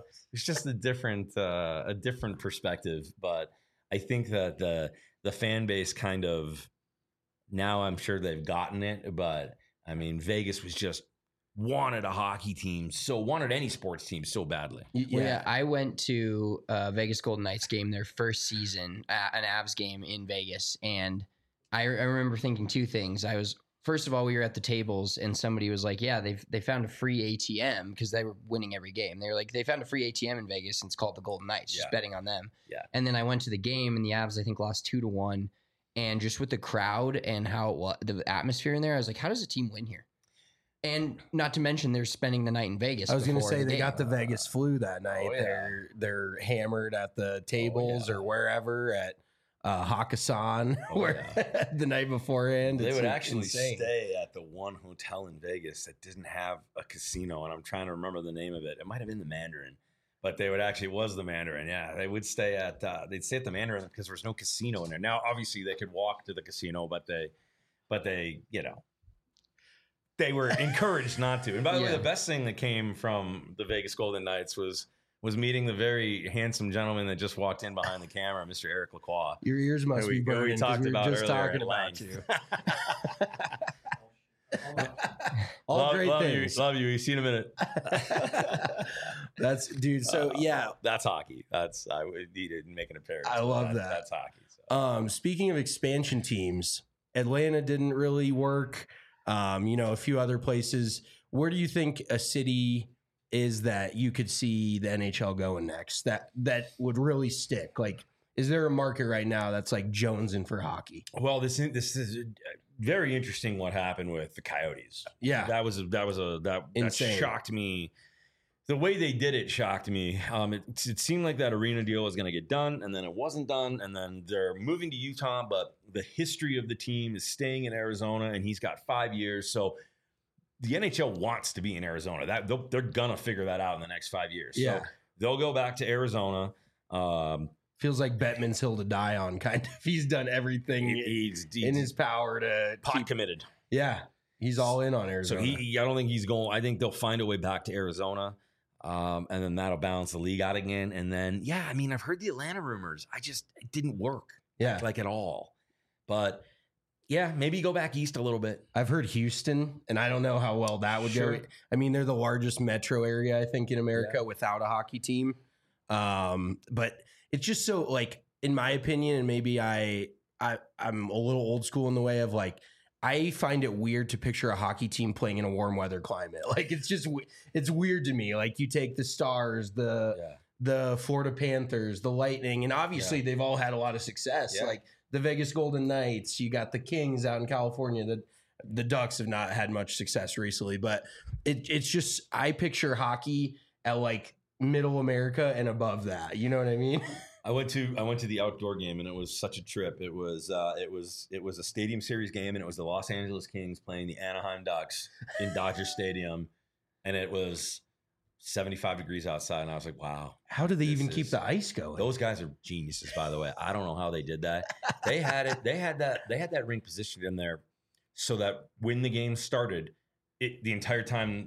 a different perspective. But I think that the fan base kind of, now I'm sure they've gotten it, but Vegas was just wanted a hockey team, wanted any sports team so badly. Yeah, I went to a Vegas Golden Knights game their first season, an Avs game in Vegas, and I remember thinking two things. First of all, we were at the tables and somebody was like, "Yeah, they found a free ATM," because they were winning every game. They were like, "They found a free ATM in Vegas and it's called the Golden Knights." Just betting on them. Yeah. And then I went to the game and the Avs, I think, lost 2-1. And just with the crowd and how the atmosphere in there, I was like, "How does a team win here?" And not to mention they're spending the night in Vegas. I was going to before say the they game. got the Vegas flu that night. yeah. They're hammered at the tables or wherever at Hakkasan the night beforehand. They It's would actually insane. stay at the one hotel in Vegas that didn't have a casino, and I'm trying to remember the name of it. It might have been the Mandarin, but they would actually, it was the Mandarin. Yeah, they would stay at the Mandarin because there was no casino in there. Now, obviously, they could walk to the casino, but they they were encouraged not to. And by the way, the best thing that came from the Vegas Golden Knights was meeting the very handsome gentleman that just walked in behind the camera, Mr. Eric Lacroix. Your ears must be burning. We talked we were about just earlier talking at about length. you. All great things. Love you. See you in a minute. That's dude. So that's hockey. I would need to make an appearance. I love that. That's hockey. So. Speaking of expansion teams, Atlanta didn't really work. A few other places. Where do you think a city is that you could see the NHL going next? That would really stick. Like, is there a market right now that's like jonesing for hockey? Well, this is very interesting. What happened with the Coyotes? Yeah, that shocked me. The way they did it shocked me. It seemed like that arena deal was going to get done, and then it wasn't done, and then they're moving to Utah, but the history of the team is staying in Arizona, and he's got 5 years. So the NHL wants to be in Arizona. They're going to figure that out in the next 5 years. Yeah. So they'll go back to Arizona. Feels like Bettman's hill to die on, kind of. He's done everything He's in his power to pot committed. Yeah, he's all in on Arizona. So I don't think he's going. I think they'll find a way back to Arizona. And then that'll balance the league out again. And then, I've heard the Atlanta rumors. It didn't work. Like at all. But maybe go back east a little bit. I've heard Houston, and I don't know how well that would go. I mean, they're the largest metro area, I think, in America without a hockey team. But it's just so, like, in my opinion, and maybe I'm a little old school in the way of, like, I find it weird to picture a hockey team playing in a warm weather climate. Like, it's weird to me. Like, you take the Stars, the Florida Panthers, the Lightning, and obviously they've all had a lot of success. Yeah. Like the Vegas Golden Knights, you got the Kings out in California. The Ducks have not had much success recently, but it's just, I picture hockey at like middle America and above that. You know what I mean? I went to the outdoor game, and it was such a trip. It was a Stadium Series game, and it was the Los Angeles Kings playing the Anaheim Ducks in Dodger Stadium, and it was 75 degrees outside, and I was like, wow. How do they even keep the ice going? Those guys are geniuses, by the way. I don't know how they did that. They had that rink positioned in there so that when the game started, the entire time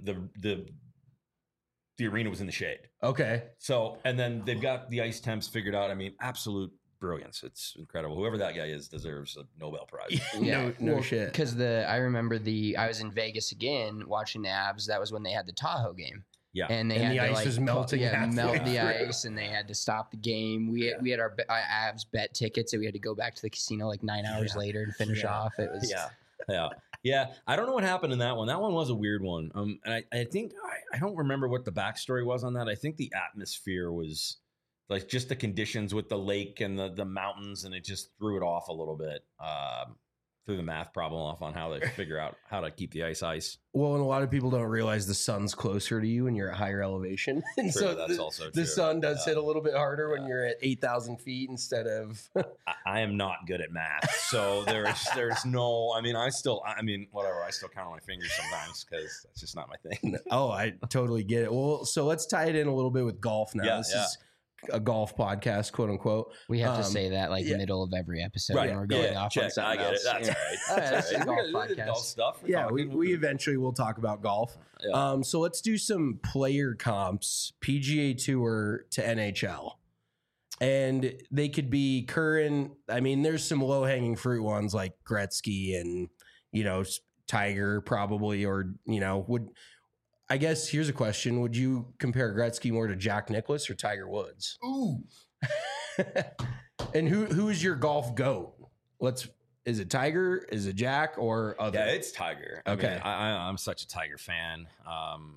the arena was in the shade. Okay. So, and then they've got the ice temps figured out. I mean, absolute brilliance. It's incredible. Whoever that guy is deserves a Nobel Prize. No shit. Because I remember I was in Vegas again watching the Avs. That was when they had the Tahoe game. Yeah. And the ice was melting. Melt the ice, and they had to stop the game. We had our Avs bet tickets, and we had to go back to the casino like 9 hours later to finish off. It was Yeah. I don't know what happened in that one. That one was a weird one. And I think I don't remember what the backstory was on that. I think the atmosphere was like just the conditions with the lake and the mountains, and it just threw it off a little bit. Threw the math problem off on how they figure out how to keep the ice. Well, and a lot of people don't realize the sun's closer to you when you're at higher elevation. And True, so that's also true. The sun does hit a little bit harder when you're at 8,000 feet instead of... I am not good at math. So there's no, I still count on my fingers sometimes because that's just not my thing. Oh, I totally get it. Well, so let's tie it in a little bit with golf now. This is a golf podcast, quote unquote. We have to say that middle of every episode when we're going off on something I get else. it. That's all right. That's a golf podcast. Golf stuff. We eventually will talk about golf. Yeah. So let's do some player comps, PGA Tour to NHL. And they could be current. I mean, there's some low hanging fruit ones like Gretzky and, Tiger probably, or, I guess here's a question. Would you compare Gretzky more to Jack Nicklaus or Tiger Woods? Ooh. And who is your golf GOAT? Is it Tiger? Is it Jack or other? Yeah, it's Tiger. Okay. I'm such a Tiger fan. I'm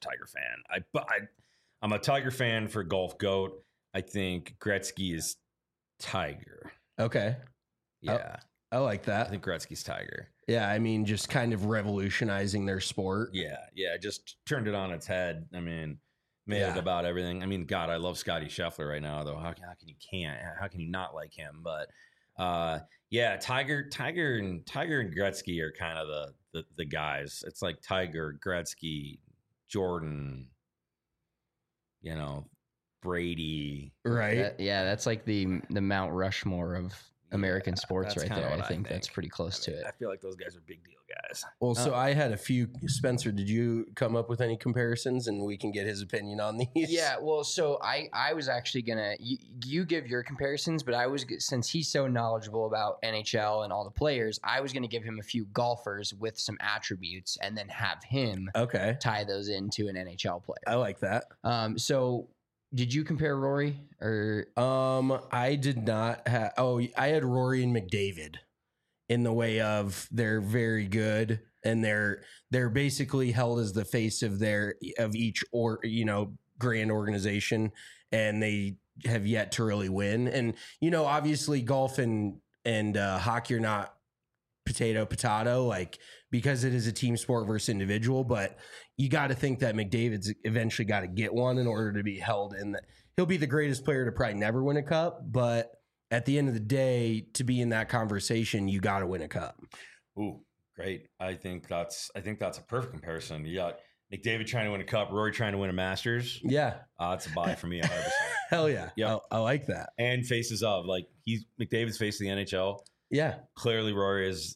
a Tiger fan for golf GOAT. I think Gretzky is Tiger. Okay. Yeah. I like that. I think Gretzky's Tiger. Yeah, I mean, just kind of revolutionizing their sport. Yeah, just turned it on its head. I mean, made it about everything. I mean, God, I love Scotty Scheffler right now, though. How can you not like him? But yeah, Tiger and Gretzky are kind of the guys. It's like Tiger, Gretzky, Jordan, Brady. Right. That's like the Mount Rushmore of American sports right there. I think that's pretty close to it. I feel like those guys are big deal guys. Well, so I had a few. Spencer, did you come up with any comparisons, and we can get his opinion on these? Yeah, well, so I was actually gonna you give your comparisons, but since he's so knowledgeable about NHL and all the players, I was gonna give him a few golfers with some attributes, and then have him tie those into an NHL player. I like that. So did you compare Rory or? I did not have. Oh, I had Rory and McDavid in the way of they're very good, and they're basically held as the face of each grand organization, and they have yet to really win. And obviously golf and hockey are not potato, like, because it is a team sport versus individual, but you got to think that McDavid's eventually got to get one in order to be held in that. He'll be the greatest player to probably never win a cup, but at the end of the day, to be in that conversation, you got to win a cup. Ooh, great. I think that's a perfect comparison. You got McDavid trying to win a cup, Rory trying to win a Masters. Yeah. It's a buy for me 100%. Hell yeah. Yep. I like that. And faces of, like, McDavid's face of the NHL. Yeah. Clearly Rory is,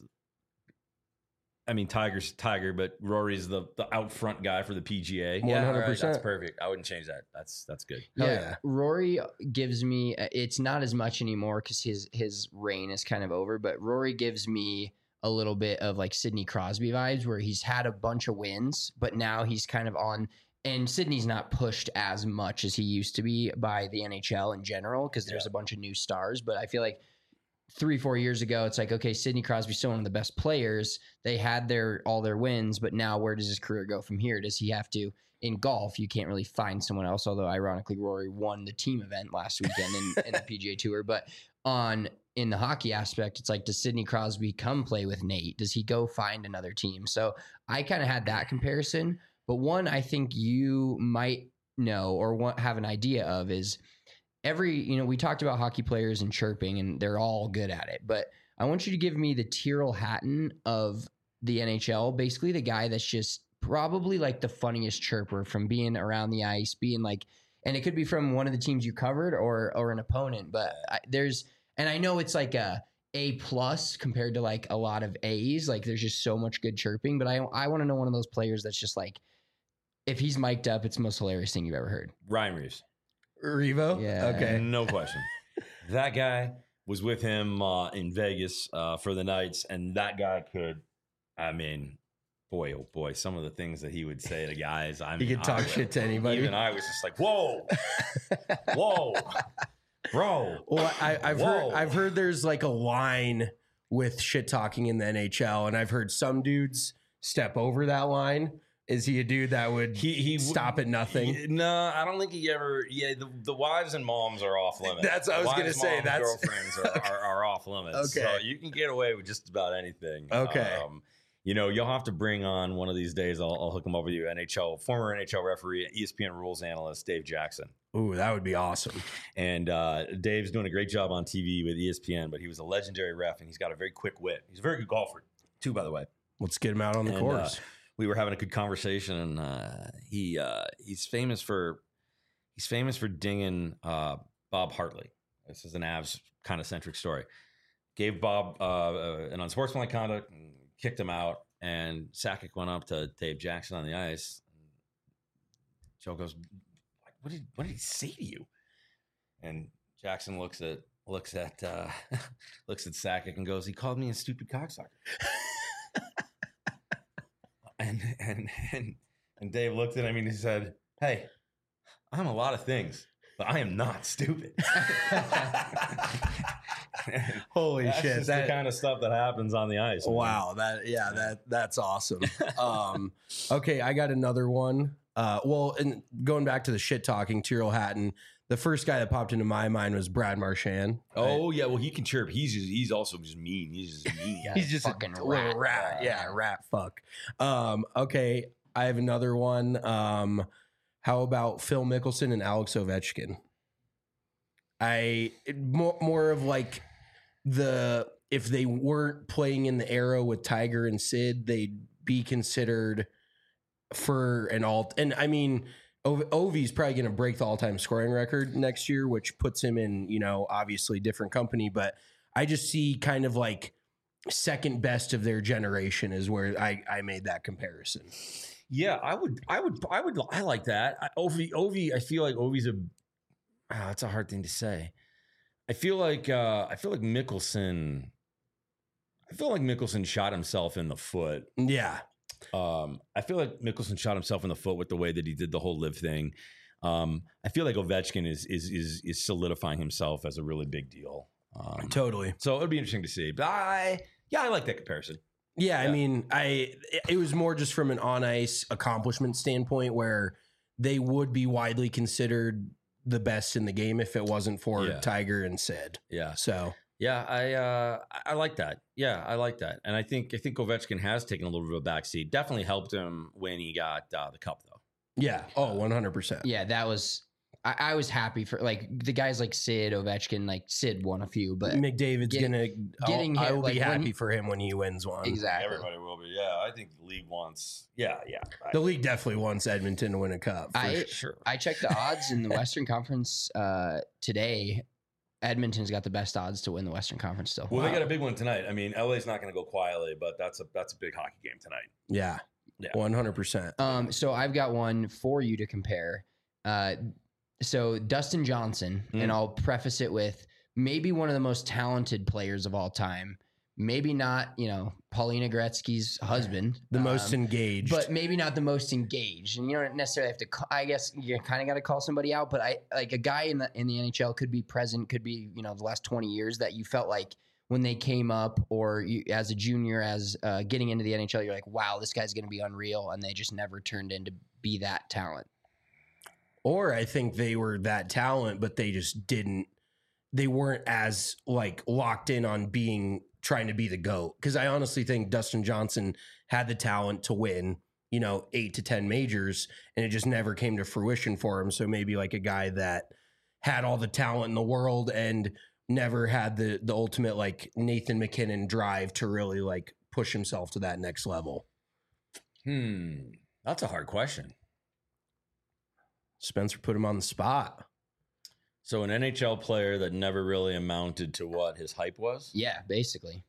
Tiger's Tiger, but Rory's the out front guy for the PGA. 100%. Yeah, right, that's perfect. I wouldn't change that. That's good. Yeah. Rory gives me, it's not as much anymore because his reign is kind of over, but Rory gives me a little bit of like Sidney Crosby vibes, where he's had a bunch of wins, but now he's kind of on, and Sidney's not pushed as much as he used to be by the NHL in general, because there's a bunch of new stars, but I feel like 3-4 years ago, it's like, okay, Sidney Crosby's still one of the best players. They had all their wins, but now where does his career go from here? Does he have to, in golf, you can't really find someone else, although ironically Rory won the team event last weekend in the PGA Tour. But in the hockey aspect, it's like, does Sidney Crosby come play with Nate? Does he go find another team? So I kind of had that comparison. But one I think you might know or have an idea of is, we talked about hockey players and chirping, and they're all good at it. But I want you to give me the Tyrrell Hatton of the NHL, basically the guy that's just probably like the funniest chirper from being around the ice, being like, and it could be from one of the teams you covered or an opponent. But and I know it's like A+ compared to like a lot of A's. Like, there's just so much good chirping. But I want to know one of those players that's just like, if he's mic'd up, it's the most hilarious thing you've ever heard. Ryan Reeves. Revo? Yeah. Okay. No question. That guy was with him in Vegas for the Knights, and that guy could, boy, oh boy, some of the things that he would say to guys. He could talk shit to anybody. Even I was just like, whoa, whoa, bro. Well, I've heard there's like a line with shit talking in the NHL, and I've heard some dudes step over that line. Is he a dude that would he stop at nothing? No, I don't think he ever. Yeah, the wives and moms are off limits. That's what I was going to say. That's girlfriends are off limits. Okay, so you can get away with just about anything. Okay, you'll have to bring on one of these days. I'll hook him up with you. Former NHL referee, ESPN rules analyst Dave Jackson. Ooh, that would be awesome. And Dave's doing a great job on TV with ESPN, but he was a legendary ref, and he's got a very quick wit. He's a very good golfer too, by the way. Let's get him out on the course. We were having a good conversation, and he's famous for dinging Bob Hartley. This is an Avs kind of centric story. Gave Bob an unsportsmanlike conduct, and kicked him out, and Sakic went up to Dave Jackson on the ice. Joe goes, "What did he say to you?" And Jackson looks at Sakic and goes, "He called me a stupid cocksucker." And Dave looked at him and he said, "Hey, I'm a lot of things, but I am not stupid." Holy that's shit! Just the kind of stuff that happens on the ice. Wow, that's awesome. Okay, I got another one. And going back to the shit talking, Tyrrell Hatton, The first guy that popped into my mind was Brad Marchand. Oh yeah, well he can chirp. He's also just mean. He's just mean. He's just fucking a little rat. Yeah, rat fuck. Okay, I have another one. How about Phil Mickelson and Alex Ovechkin? More of like if they weren't playing in the era with Tiger and Sid, they'd be considered for an alt. And I mean, Ovi's probably going to break the all-time scoring record next year, which puts him in, obviously different company. But I just see kind of like second best of their generation is where I made that comparison. Yeah, I like that. Ovi, I feel like Ovi's that's a hard thing to say. I feel like Mickelson shot himself in the foot. Yeah. I feel like Mickelson shot himself in the foot with the way that he did the whole live thing. I feel like Ovechkin is solidifying himself as a really big deal. Totally. So it'll be interesting to see. But I like that comparison. Yeah, I mean, it was more just from an on ice accomplishment standpoint where they would be widely considered the best in the game if it wasn't for Tiger and Sid. Yeah. So yeah, I like that. Yeah, I like that, and I think Ovechkin has taken a little bit of a backseat. Definitely helped him when he got the cup, though. Yeah. Oh, 100%. Yeah, that was. I was happy for like the guys like Sid, Ovechkin. Like Sid won a few, but McDavid's getting I hit, will like, be happy for him when he wins one. Exactly. Everybody will be. Yeah, I think the league wants. Yeah. The league definitely wants Edmonton to win a cup. Sure. I checked the odds in the Western Conference today. Edmonton's got the best odds to win the Western Conference still. Well, they got a big one tonight. I mean, LA's not going to go quietly, but that's a big hockey game tonight. Yeah. 100%. So I've got one for you to compare. So Dustin Johnson, and I'll preface it with maybe one of the most talented players of all time. Maybe not, Paulina Gretzky's husband. The most engaged. But maybe not the most engaged. And you don't necessarily have to, I guess you kind of got to call somebody out. But a guy in the NHL could be present, could be, the last 20 years that you felt like when they came up or you, as a junior, as getting into the NHL, you're like, wow, this guy's going to be unreal. And they just never turned into be that talent. Or I think they were that talent, but they just they weren't as like locked in on trying to be the GOAT. Because I honestly think Dustin Johnson had the talent to win, 8 to 10 majors, and it just never came to fruition for him. So maybe like a guy that had all the talent in the world and never had the ultimate like Nathan McKinnon drive to really like push himself to that next level. That's a hard question. Spencer put him on the spot. So an NHL player that never really amounted to what his hype was? Yeah, basically.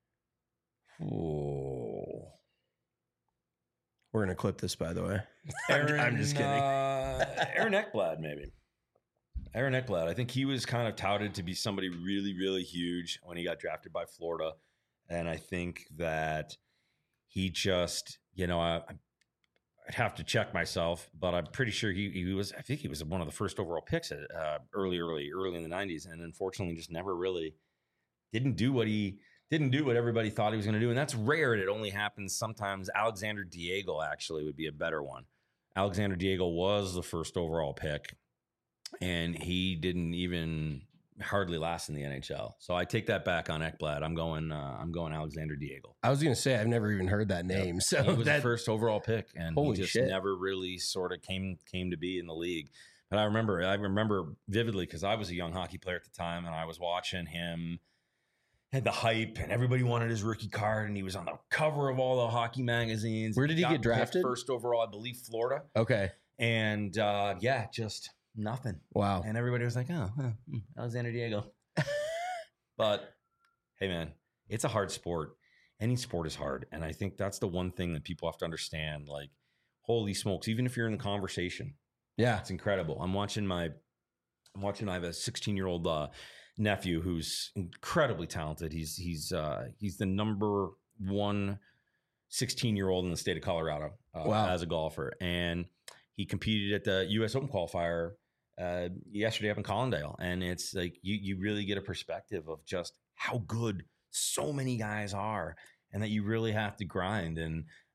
Ooh. We're going to clip this, by the way. Aaron, I'm just kidding. Aaron Ekblad, maybe. Aaron Ekblad. I think he was kind of touted to be somebody really, really huge when he got drafted by Florida. And I think that he just, I'd have to check myself, but I'm pretty sure he was. I think he was one of the first overall picks early in the 90s, and unfortunately, just never really didn't do what everybody thought he was going to do, and that's rare. And it only happens sometimes. Alexander Diego actually would be a better one. Alexander Diego was the first overall pick, and he didn't even hardly last in the NHL. So I take that back on Ekblad. I'm going Alexander Diego. I was going to say I've never even heard that name. Yep. So he was the first overall pick, and holy he just shit. never really sort of came to be in the league. But I remember vividly because I was a young hockey player at the time, and I was watching him. Had the hype, and everybody wanted his rookie card, and he was on the cover of all the hockey magazines. Where did he get drafted? First overall, I believe Florida. Okay, and just nothing. Wow. And everybody was like, Alexander Diego. But hey, man, it's a hard sport. Any sport is hard. And I think that's the one thing that people have to understand. Like, holy smokes, even if you're in the conversation. Yeah. It's incredible. I have a 16-year-old nephew who's incredibly talented. He's the number one 16-year-old in the state of Colorado as a golfer. And he competed at the U.S. Open qualifier yesterday up in Collindale. And it's like you really get a perspective of just how good so many guys are and that you really have to grind. And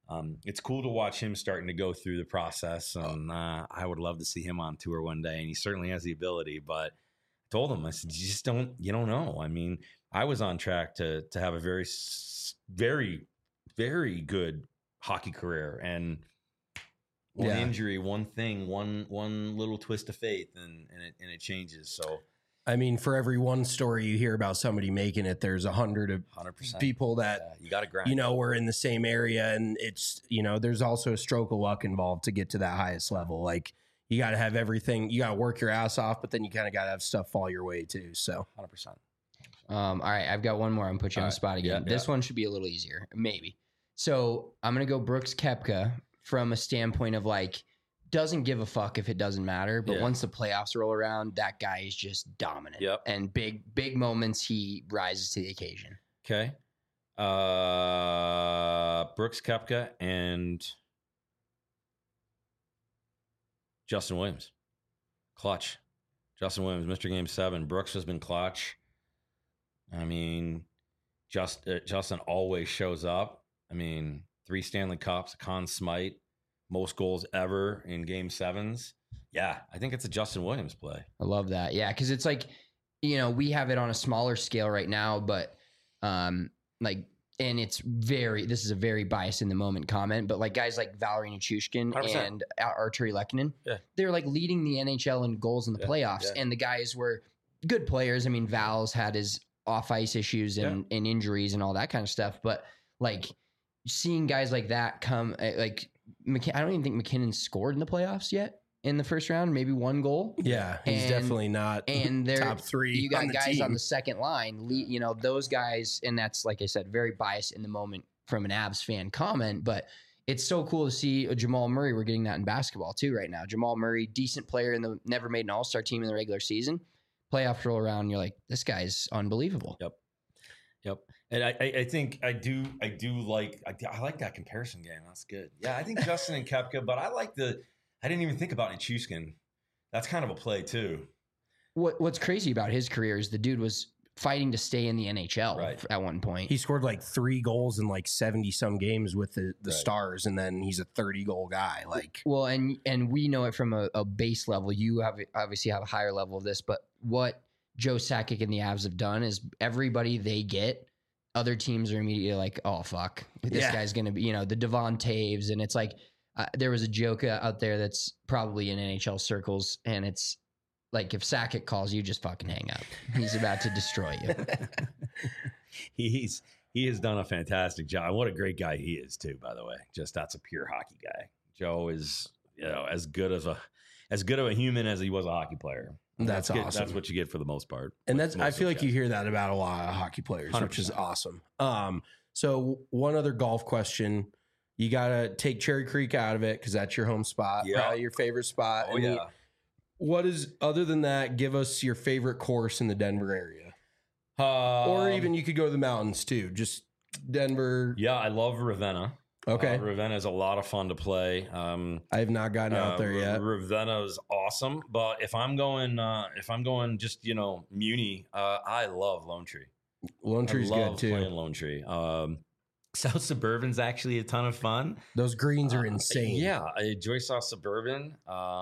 it's cool to watch him starting to go through the process. And I would love to see him on tour one day. And he certainly has the ability. But I told him, I said, you don't know. I mean, I was on track to have a very, very, very good hockey career. And one injury, one thing, one little twist of fate, and it changes. So, I mean, for every one story you hear about somebody making it, there's 100 people that you got to grind. Were in the same area, and it's there's also a stroke of luck involved to get to that highest level. Like you got to have everything, you got to work your ass off, but then you kind of got to have stuff fall your way too. So 100%. All right, I've got one more. I'm gonna put you on the spot again. This one should be a little easier, maybe. So I'm gonna go Brooks Koepka from a standpoint of like, doesn't give a fuck if it doesn't matter, but once the playoffs roll around, that guy is just dominant. Yep. And big moments, he rises to the occasion. Okay. Brooks Koepka and Justin Williams. Clutch. Justin Williams, Mr. Game 7. Brooks has been clutch. I mean, Justin always shows up. I mean, 3 Stanley Cups, a Conn Smythe. Most goals ever in Game 7s. Yeah, I think it's a Justin Williams play. I love that. Yeah, because it's like, we have it on a smaller scale right now, but and this is a very biased in the moment comment, but like guys like Valeri Nichushkin 100%. and Arturi Lehkonen, they're like leading the NHL in goals in the playoffs, and the guys were good players. I mean, Val's had his off-ice issues and injuries and all that kind of stuff, but like seeing guys like that come, like, I don't even think McKinnon scored in the playoffs yet in the first round, maybe 1 goal. Yeah, he's definitely not they're top 3. You got on the guys team. on the second line, those guys, and that's, like I said, very biased in the moment from an Avs fan comment, but it's so cool to see a Jamal Murray. We're getting that in basketball too right now. Jamal Murray, decent player never made an all-star team in the regular season. Playoff roll around, and you're like, this guy's unbelievable. Yep. And I think I like that comparison game. That's good. Yeah, I think Justin and Koepka, but I didn't even think about Nichushkin. That's kind of a play too. What's crazy about his career is the dude was fighting to stay in the NHL at one point. He scored like 3 goals in like 70 some games with the Stars, and then he's a 30-goal guy. Like, well, and we know it from a base level. You obviously have a higher level of this, but what Joe Sakic and the Avs have done is everybody they get, other teams are immediately like, oh, fuck, this guy's going to be, the Devon Taves. And it's like, there was a joke out there that's probably in NHL circles. And it's like, if Sakic calls you, just fucking hang up. He's about to destroy you. He has done a fantastic job. What a great guy he is too, by the way. Just that's a pure hockey guy. Joe is, as good of a human as he was a hockey player. That's awesome. That's what you get for the most part. And I feel like you hear that about a lot of hockey players, 100%. Which is awesome. So one other golf question. You got to take Cherry Creek out of it because that's your home spot, probably your favorite spot. Oh, yeah. Other than that, give us your favorite course in the Denver area. Or even you could go to the mountains too. Just Denver. Yeah, I love Ravenna. Okay. Ravenna is a lot of fun to play. I have not gotten out there yet. Ravenna is awesome, but if I'm going just Muni, I love Lone Tree. Lone Tree's good too. Playing Lone Tree. South Suburban's actually a ton of fun. Those greens are insane. Yeah, I enjoy South Suburban.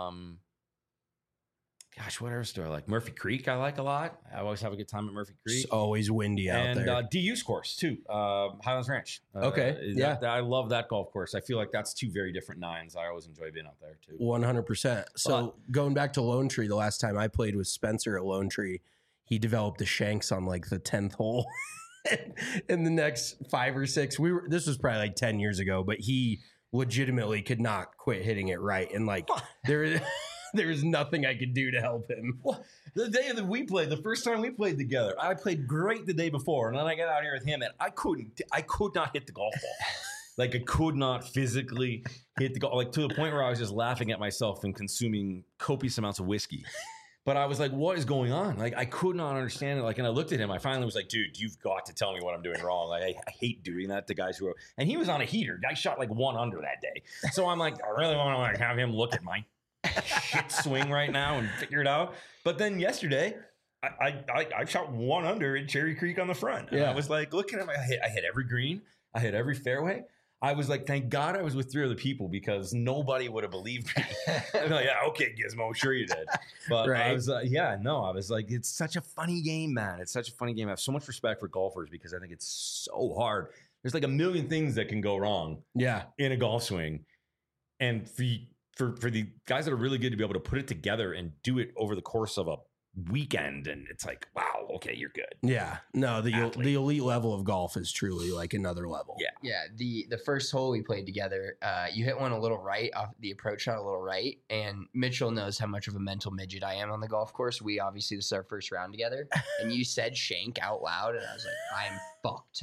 Gosh, what else do I like? Murphy Creek, I like a lot. I always have a good time at Murphy Creek. It's always windy out there. And DU's course, too. Highlands Ranch. Okay, I love that golf course. I feel like that's 2 very different nines. I always enjoy being out there, too. 100%. So going back to Lone Tree, the last time I played with Spencer at Lone Tree, he developed the shanks on like the 10th hole. In the next 5 or 6, this was probably like 10 years ago, but he legitimately could not quit hitting it right. And like there was nothing I could do to help him. Well, the day that we played, the first time we played together, I played great the day before, and then I got out here with him, and I could not hit the golf ball. Like I could not physically hit the golf, like to the point where I was just laughing at myself and consuming copious amounts of whiskey. But I was like, what is going on? Like, I could not understand it. Like, and I looked at him. I finally was like, dude, you've got to tell me what I'm doing wrong. Like, I hate doing that to guys who are, and he was on a heater. Guy shot like 1 under that day. So I'm like, I really want to like have him look at my shit swing right now and figure it out. But then yesterday, I shot 1 under in Cherry Creek on the front. And I was like, looking at I hit every green. I hit every fairway. I was like, thank God I was with 3 other people because nobody would have believed me. I'm like, yeah, okay, Gizmo, sure you did. But Right. I was, I was like, it's such a funny game, man. It's such a funny game. I have so much respect for golfers because I think it's so hard. There's like a million things that can go wrong Yeah. in a golf swing. And for the guys that are really good to be able to put it together and do it over the course of a weekend, and it's like, wow, okay, you're good. Yeah. No, the Athlete. elite level of golf is truly like another level. Yeah. Yeah, the first hole we played together, you hit one a little right off the approach shot, a little right, and Mitchell knows how much of a mental midget I am on the golf course. We obviously, this is our first round together, and you said shank out loud, and I was like, I'm fucked.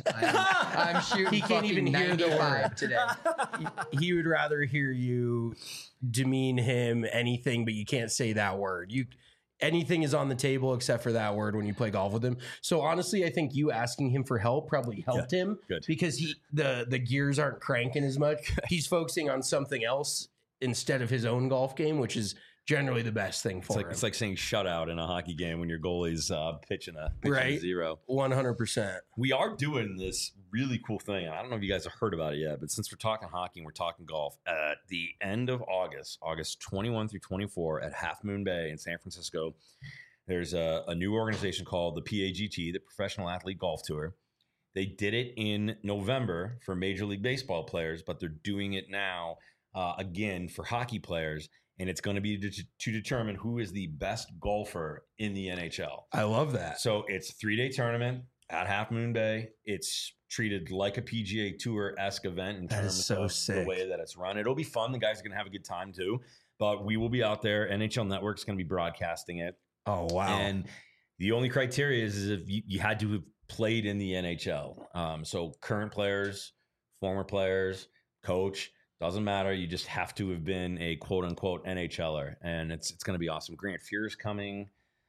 I'm shooting. He can't even hear the 95 word today. He would rather hear you demean him, anything, but you can't say that word. Anything is on the table except for that word when you play golf with him. So honestly, I think you asking him for help probably helped him good. because the gears aren't cranking as much. He's focusing on something else instead of his own golf game, which is generally the best thing for him. It's like saying shutout in a hockey game when your goalie's pitching a Right. 0. 100%. We are doing this really cool thing. I don't know if you guys have heard about it yet, but since we're talking hockey and we're talking golf, at the end of August 21 through 24 at Half Moon Bay in San Francisco, there's a new organization called the PAGT, the Professional Athlete Golf Tour. They did it in November for Major League Baseball players, but they're doing it now again for hockey players. And it's going to be to determine who is the best golfer in the NHL. I love that. So it's a 3-day tournament at Half Moon Bay. It's treated like a PGA Tour-esque event in That is terms so of sick. the way that it's run. It'll be fun. The guys are going to have a good time too. But we will be out there. NHL Network's going to be broadcasting it. Oh, wow. And the only criteria is if you had to have played in the NHL. So current players, former players, coach, doesn't matter. You just have to have been a quote unquote NHLer. And it's going to be awesome. Grant Fuhr's coming.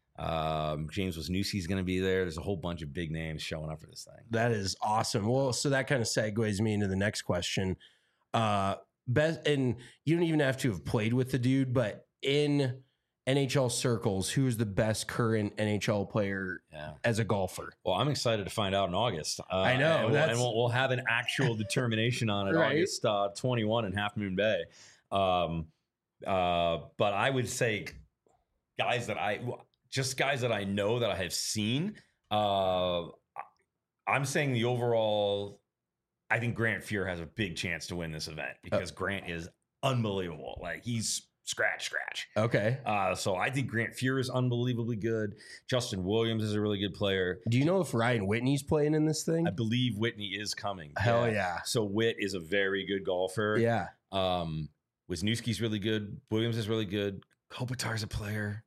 James Wisniewski's going to be there. There's a whole bunch of big names showing up for this thing. That is awesome. Well, so that kind of segues me into the next question. Best, and you don't even have to have played with the dude, but in NHL circles, who is the best current NHL player as a golfer? Well, I'm excited to find out in August. I know. And we'll have an actual determination on it Right. August 21 in Half Moon Bay. But I would say guys that I know that I have seen. I'm saying the overall, I think Grant Fuhr has a big chance to win this event because Grant is unbelievable. Like he's scratch. Okay. So I think Grant Fuhr is unbelievably good. Justin Williams is a really good player. Do you know if Ryan Whitney's playing in this thing? I believe Whitney is coming. Hell yeah. So Whit is a very good golfer. Yeah. Wisniewski's really good. Williams is really good. Kopitar's a player.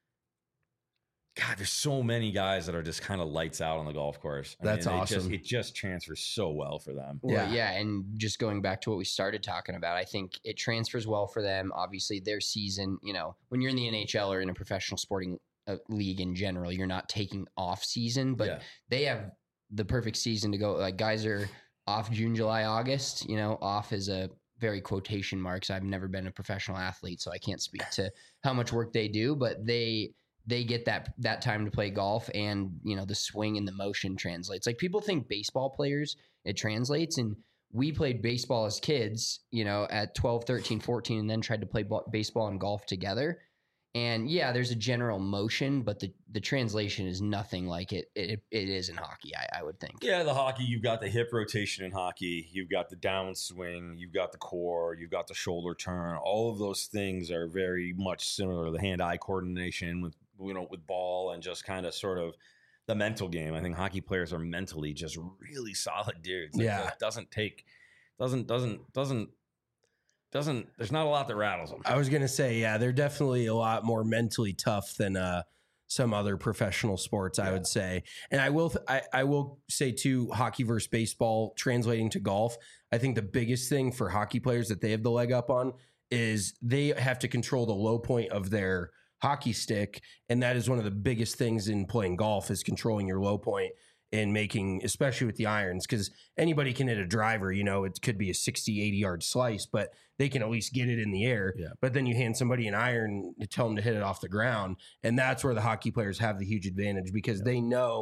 God, there's so many guys that are just kind of lights out on the golf course. That's awesome. It just transfers so well for them. Well, yeah, and just going back to what we started talking about, I think it transfers well for them. Obviously, their season, when you're in the NHL or in a professional sporting league in general, you're not taking off season, but they have the perfect season to go. Like guys are off June, July, August. Off is a very quotation marks. I've never been a professional athlete, so I can't speak to how much work they do, but they get that time to play golf, and the swing and the motion translates. Like people think baseball players, it translates, and we played baseball as kids, at 12, 13, 14, and then tried to play baseball and golf together. And yeah, there's a general motion, but the translation is nothing like it is in hockey, I would think. Yeah, the hockey, you've got the hip rotation in hockey, you've got the downswing, you've got the core, you've got the shoulder turn. All of those things are very much similar. The hand-eye coordination with ball and just kind of sort of the mental game. I think hockey players are mentally just really solid dudes. It doesn't there's not a lot that rattles them. I was going to say, yeah, they're definitely a lot more mentally tough than some other professional sports, I would say. And I will say too, hockey versus baseball translating to golf. I think the biggest thing for hockey players that they have the leg up on is they have to control the low point of their hockey stick. And that is one of the biggest things in playing golf is controlling your low point and making, especially with the irons, because anybody can hit a driver, it could be a 60, 80 yard slice, but they can at least get it in the air. Yeah. But then you hand somebody an iron to tell them to hit it off the ground. And that's where the hockey players have the huge advantage because they know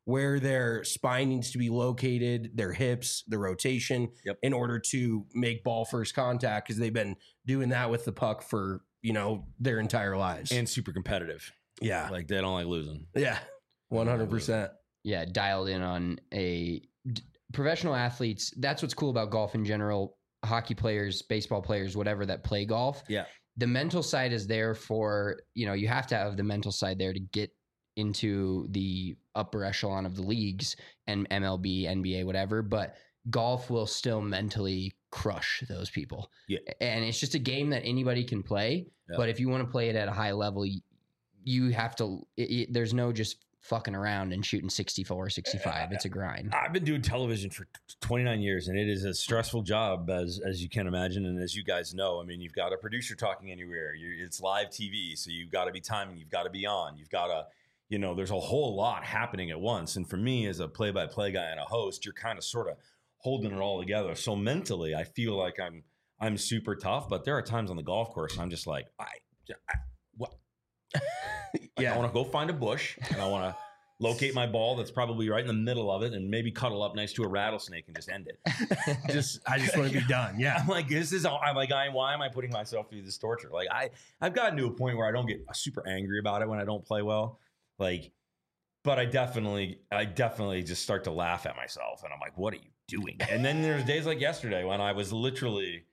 where their spine needs to be located, their hips, the rotation, in order to make ball first contact, because they've been doing that with the puck for, their entire lives. And super competitive. Yeah. Like they don't like losing. Yeah. 100%. Yeah. Dialed in on professional athletes. That's what's cool about golf in general. Hockey players, baseball players, whatever that play golf. Yeah. The mental side is there for, you have to have the mental side there to get into the upper echelon of the leagues and MLB, NBA, whatever, but golf will still mentally crush those people. Yeah. And it's just a game that anybody can play, but if you want to play it at a high level, you have to, there's no just fucking around and shooting 64, 65. It's a grind. I've been doing television for 29 years, and it is a stressful job, as you can imagine. And as you guys know, I mean, you've got a producer talking anywhere. It's live TV, so you've got to be timing. You've got to be on. You've got to, there's a whole lot happening at once. And for me, as a play-by-play guy and a host, you're kind of sort of holding it all together. So mentally, I feel like I'm super tough. But there are times on the golf course I'm just like, what? I want to go find a bush and I want to locate my ball that's probably right in the middle of it and maybe cuddle up next to a rattlesnake and just end it. I just want to be done. Yeah. I'm like, why am I putting myself through this torture? Like I've gotten to a point where I don't get super angry about it when I don't play well. But I definitely just start to laugh at myself and I'm like, what are you doing? And then there's days like yesterday when I was literally,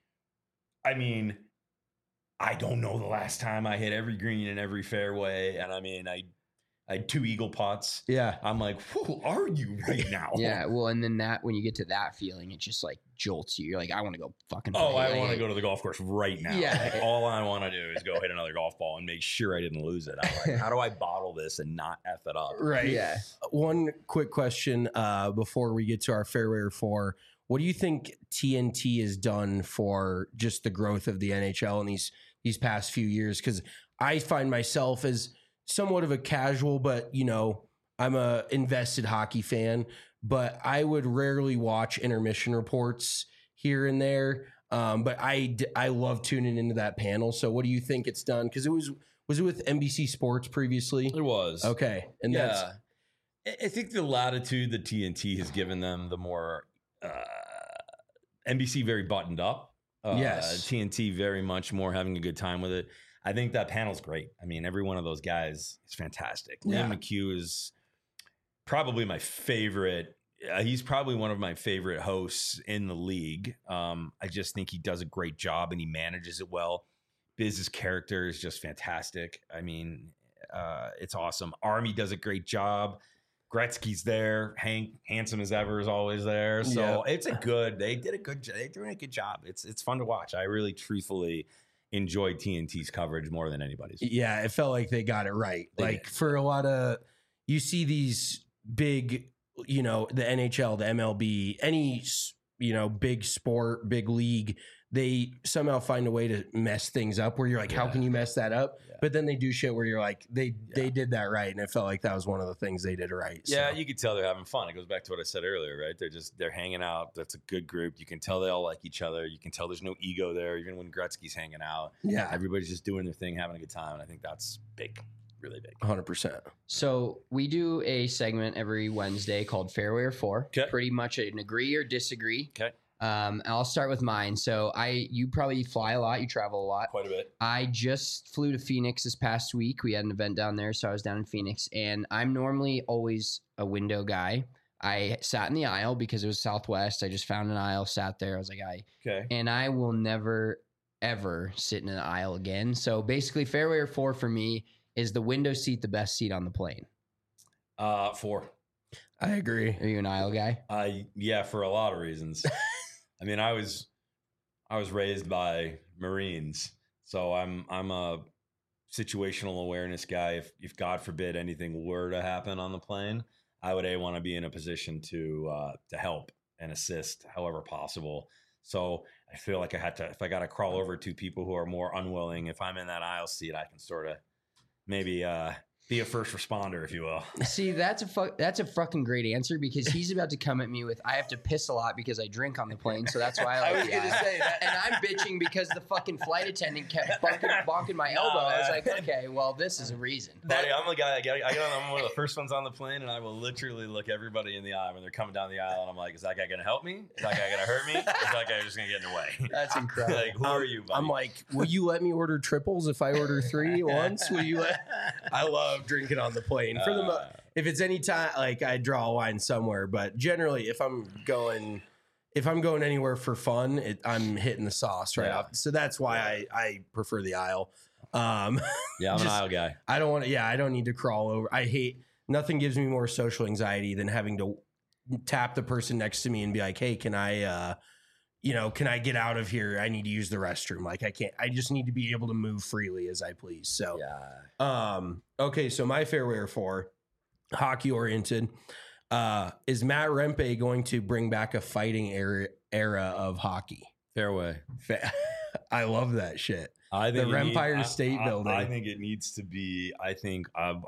I don't know the last time I hit every green and every fairway. And I had 2 eagle putts. Yeah. I'm like, who are you right now? Yeah. Well, and then when you get to that feeling, it just like jolts you. You're like, I want to go fucking play. I want to go to the golf course right now. Yeah. Like, all I want to do is go hit another golf ball and make sure I didn't lose it. I'm like, how do I bottle this and not F it up? Right. Yeah. One quick question before we get to our Fairway 4. What do you think TNT has done for just the growth of the NHL in these past few years? Because I find myself as somewhat of a casual, but I'm a invested hockey fan, but I would rarely watch intermission reports here and there. But I love tuning into that panel. So what do you think it's done? Because was it with NBC Sports previously? It was. Okay. And I think the latitude that TNT has given them, the more NBC very buttoned up. Yes. TNT very much more having a good time with it. I think that panel's great. I mean, every one of those guys is fantastic. Yeah. Liam McHugh is probably my favorite. He's probably one of my favorite hosts in the league. I just think he does a great job and he manages it well. Biz's character is just fantastic. I mean, it's awesome. Army does a great job. Gretzky's there. Hank, handsome as ever, is always there. So It's they did a good job. They're doing a good job. It's fun to watch. I really truthfully enjoyed TNT's coverage more than anybody's. Yeah, it felt like they got it right. For a lot of, you see these big, the NHL, the MLB, any, big sport, big league, they somehow find a way to mess things up where you're like, how can you mess that up? Yeah. But then they do shit where you're like, they did that right. And it felt like that was one of the things they did right. Yeah, you could tell they're having fun. It goes back to what I said earlier, right? They're hanging out. That's a good group. You can tell they all like each other. You can tell there's no ego there, even when Gretzky's hanging out. Yeah. Everybody's just doing their thing, having a good time. And I think that's big. Really big. 100%. So we do a segment every Wednesday called Fairway or 4. Okay. Pretty much an agree or disagree. Okay. I'll start with mine. So you probably fly a lot. You travel a lot. Quite a bit. I just flew to Phoenix this past week. We had an event down there, so I was down in Phoenix. And I'm normally always a window guy. I sat in the aisle because it was Southwest. I just found an aisle, sat there. I was like, okay. And I will never, ever sit in an aisle again. So basically, Fairway or 4 for me is the window seat the best seat on the plane? 4. I agree. Are you an aisle guy? Yeah, for a lot of reasons. I mean, I was raised by Marines, so I'm a situational awareness guy. If God forbid anything were to happen on the plane, I would want to be in a position to help and assist however possible. So I feel like if I got to crawl over to people who are more unwilling, if I'm in that aisle seat, I can sort of maybe Be a first responder, if you will. See, that's a fucking great answer because he's about to come at me with I have to piss a lot because I drink on the plane, so that's why I like the aisle. say that. And I'm bitching because the fucking flight attendant kept bonking my elbow. I was like, okay, well, this is a reason. Buddy, I'm a guy. I'm one of the first ones on the plane, and I will literally look everybody in the eye when they're coming down the aisle, and I'm like, is that guy going to help me? Is that guy going to hurt me? Is that guy just going to get in the way? That's incredible. Like, who are you, buddy? I'm like, will you let me order triples if I order 3 once? Will you let? I love drinking on the plane. For the if it's any time, like I draw a line somewhere, but generally, if I'm going anywhere for fun, I'm hitting the sauce right off. So that's why I prefer the aisle. I'm an aisle guy. I don't want to. Yeah, I don't need to crawl over. Nothing gives me more social anxiety than having to tap the person next to me and be like, hey, can I get out of here? I need to use the restroom. Like I just need to be able to move freely as I please. So, okay. So my fairway 4, hockey oriented, is Matt Rempe going to bring back a fighting era of hockey? Fairway. I love that shit. I think the Empire State Building. I think it needs to be. I think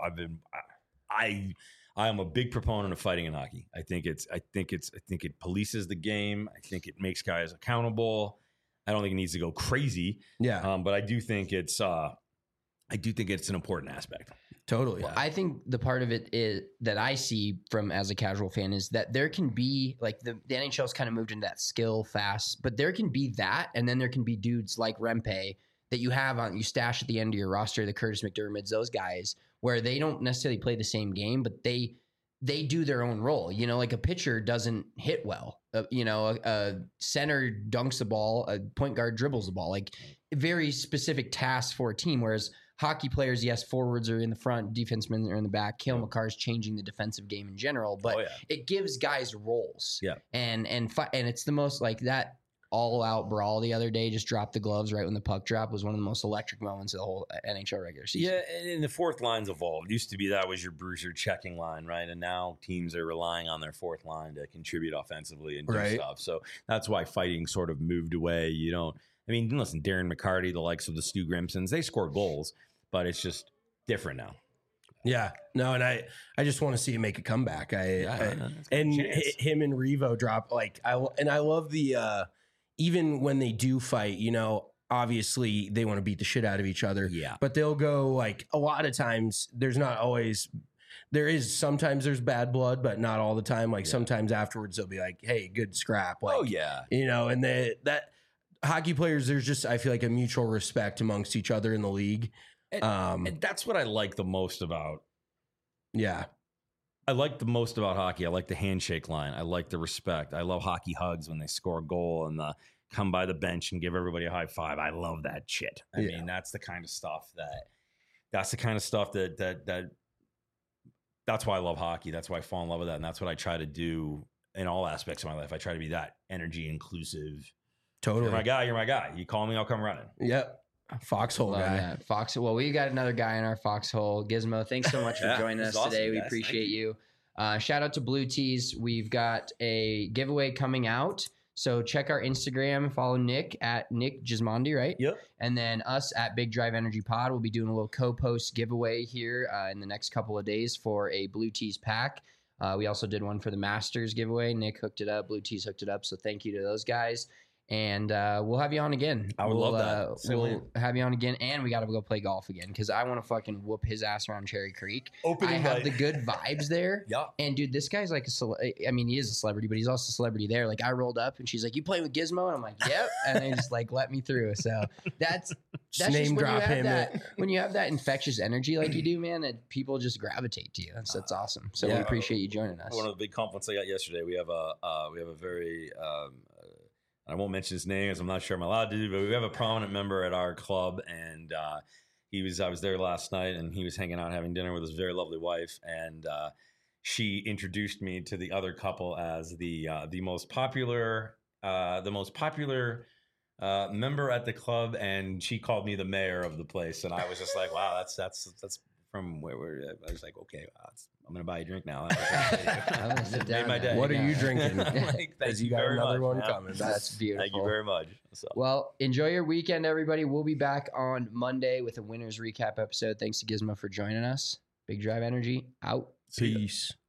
I am a big proponent of fighting in hockey. I think it polices the game. I think it makes guys accountable. I don't think it needs to go crazy. Yeah. But I do think it's an important aspect. Totally. Well, I think the part of it is that I see from as a casual fan is that there can be like the NHL's kind of moved into that skill fast, but there can be that, and then there can be dudes like Rempe that you stash at the end of your roster, the Curtis McDermotts, those guys, where they don't necessarily play the same game, but they do their own role. You know, like a pitcher doesn't hit well. A center dunks the ball, a point guard dribbles the ball. Like very specific tasks for a team. Whereas hockey players, yes, forwards are in the front, defensemen are in the back. Cale Makar's changing the defensive game in general, but it gives guys roles. Yeah, and it's the most like that. All-out brawl the other day, just dropped the gloves right when the puck dropped, was one of the most electric moments of the whole NHL regular season. Yeah, and the fourth line's evolved. Used to be that was your bruiser checking line, right? And now teams are relying on their fourth line to contribute offensively and do stuff. So that's why fighting sort of moved away. Listen, Darren McCarty, the likes of the Stu Grimsons, they score goals, but it's just different now. Yeah, no, and I just want to see him make a comeback. Him and Revo drop I love the. Even when they do fight, obviously they want to beat the shit out of each other. Yeah. But they'll go a lot of times, sometimes there's bad blood, but not all the time. Sometimes afterwards they'll be like, hey, good scrap. And that hockey players, there's just, I feel like a mutual respect amongst each other in the league. And that's what I like the most about. Yeah. I like the most about hockey. I like the handshake line. I like the respect. I love hockey hugs when they score a goal and come by the bench and give everybody a high five. I love that shit. I mean, that's the kind of stuff that's why I love hockey. That's why I fall in love with that. And that's what I try to do in all aspects of my life. I try to be that energy inclusive. Totally. You're my guy. You call me, I'll come running. Yep. Foxhole guy. That. Foxhole. Well, we got another guy in our foxhole. Gizmo, thanks so much for joining us today. We appreciate you. Shout out to Blue Tees. We've got a giveaway coming out. So check our Instagram. Follow Nick at Nick Gismondi, right? Yep. And then us at Big Drive Energy Pod. We'll be doing a little co-post giveaway here in the next couple of days for a Blue Tees pack. We also did one for the Masters giveaway. Nick hooked it up. Blue Tees hooked it up. So thank you to those guys. And we'll have you on again. I would love that. We'll have you on again, and we got to go play golf again because I want to fucking whoop his ass around Cherry Creek. I have the good vibes there. Yeah. And dude, this guy's like he is a celebrity, but he's also a celebrity there. Like I rolled up and she's like, "You playing with Gizmo?" And I'm like, "Yep." And they just let me through. So that's name drop him. When you have that infectious energy like you do, man, people just gravitate to you. That's awesome. So we appreciate you joining us. One of the big compliments I got yesterday. We have a very I won't mention his name as I'm not sure I'm allowed to, but we have a prominent member at our club, and I was there last night, and he was hanging out having dinner with his very lovely wife, and she introduced me to the other couple as the most popular member at the club, and she called me the mayor of the place, and I was just like, wow, that's from where I was like, okay, I'm gonna buy you a drink now. That made my day. What are you drinking? Thank you got another one man. coming. That's beautiful. Thank you very much. Well, enjoy your weekend, everybody. We'll be back on Monday with a winners recap episode. Thanks to Gizmo for joining us. Big Drive Energy out. See ya. Peace.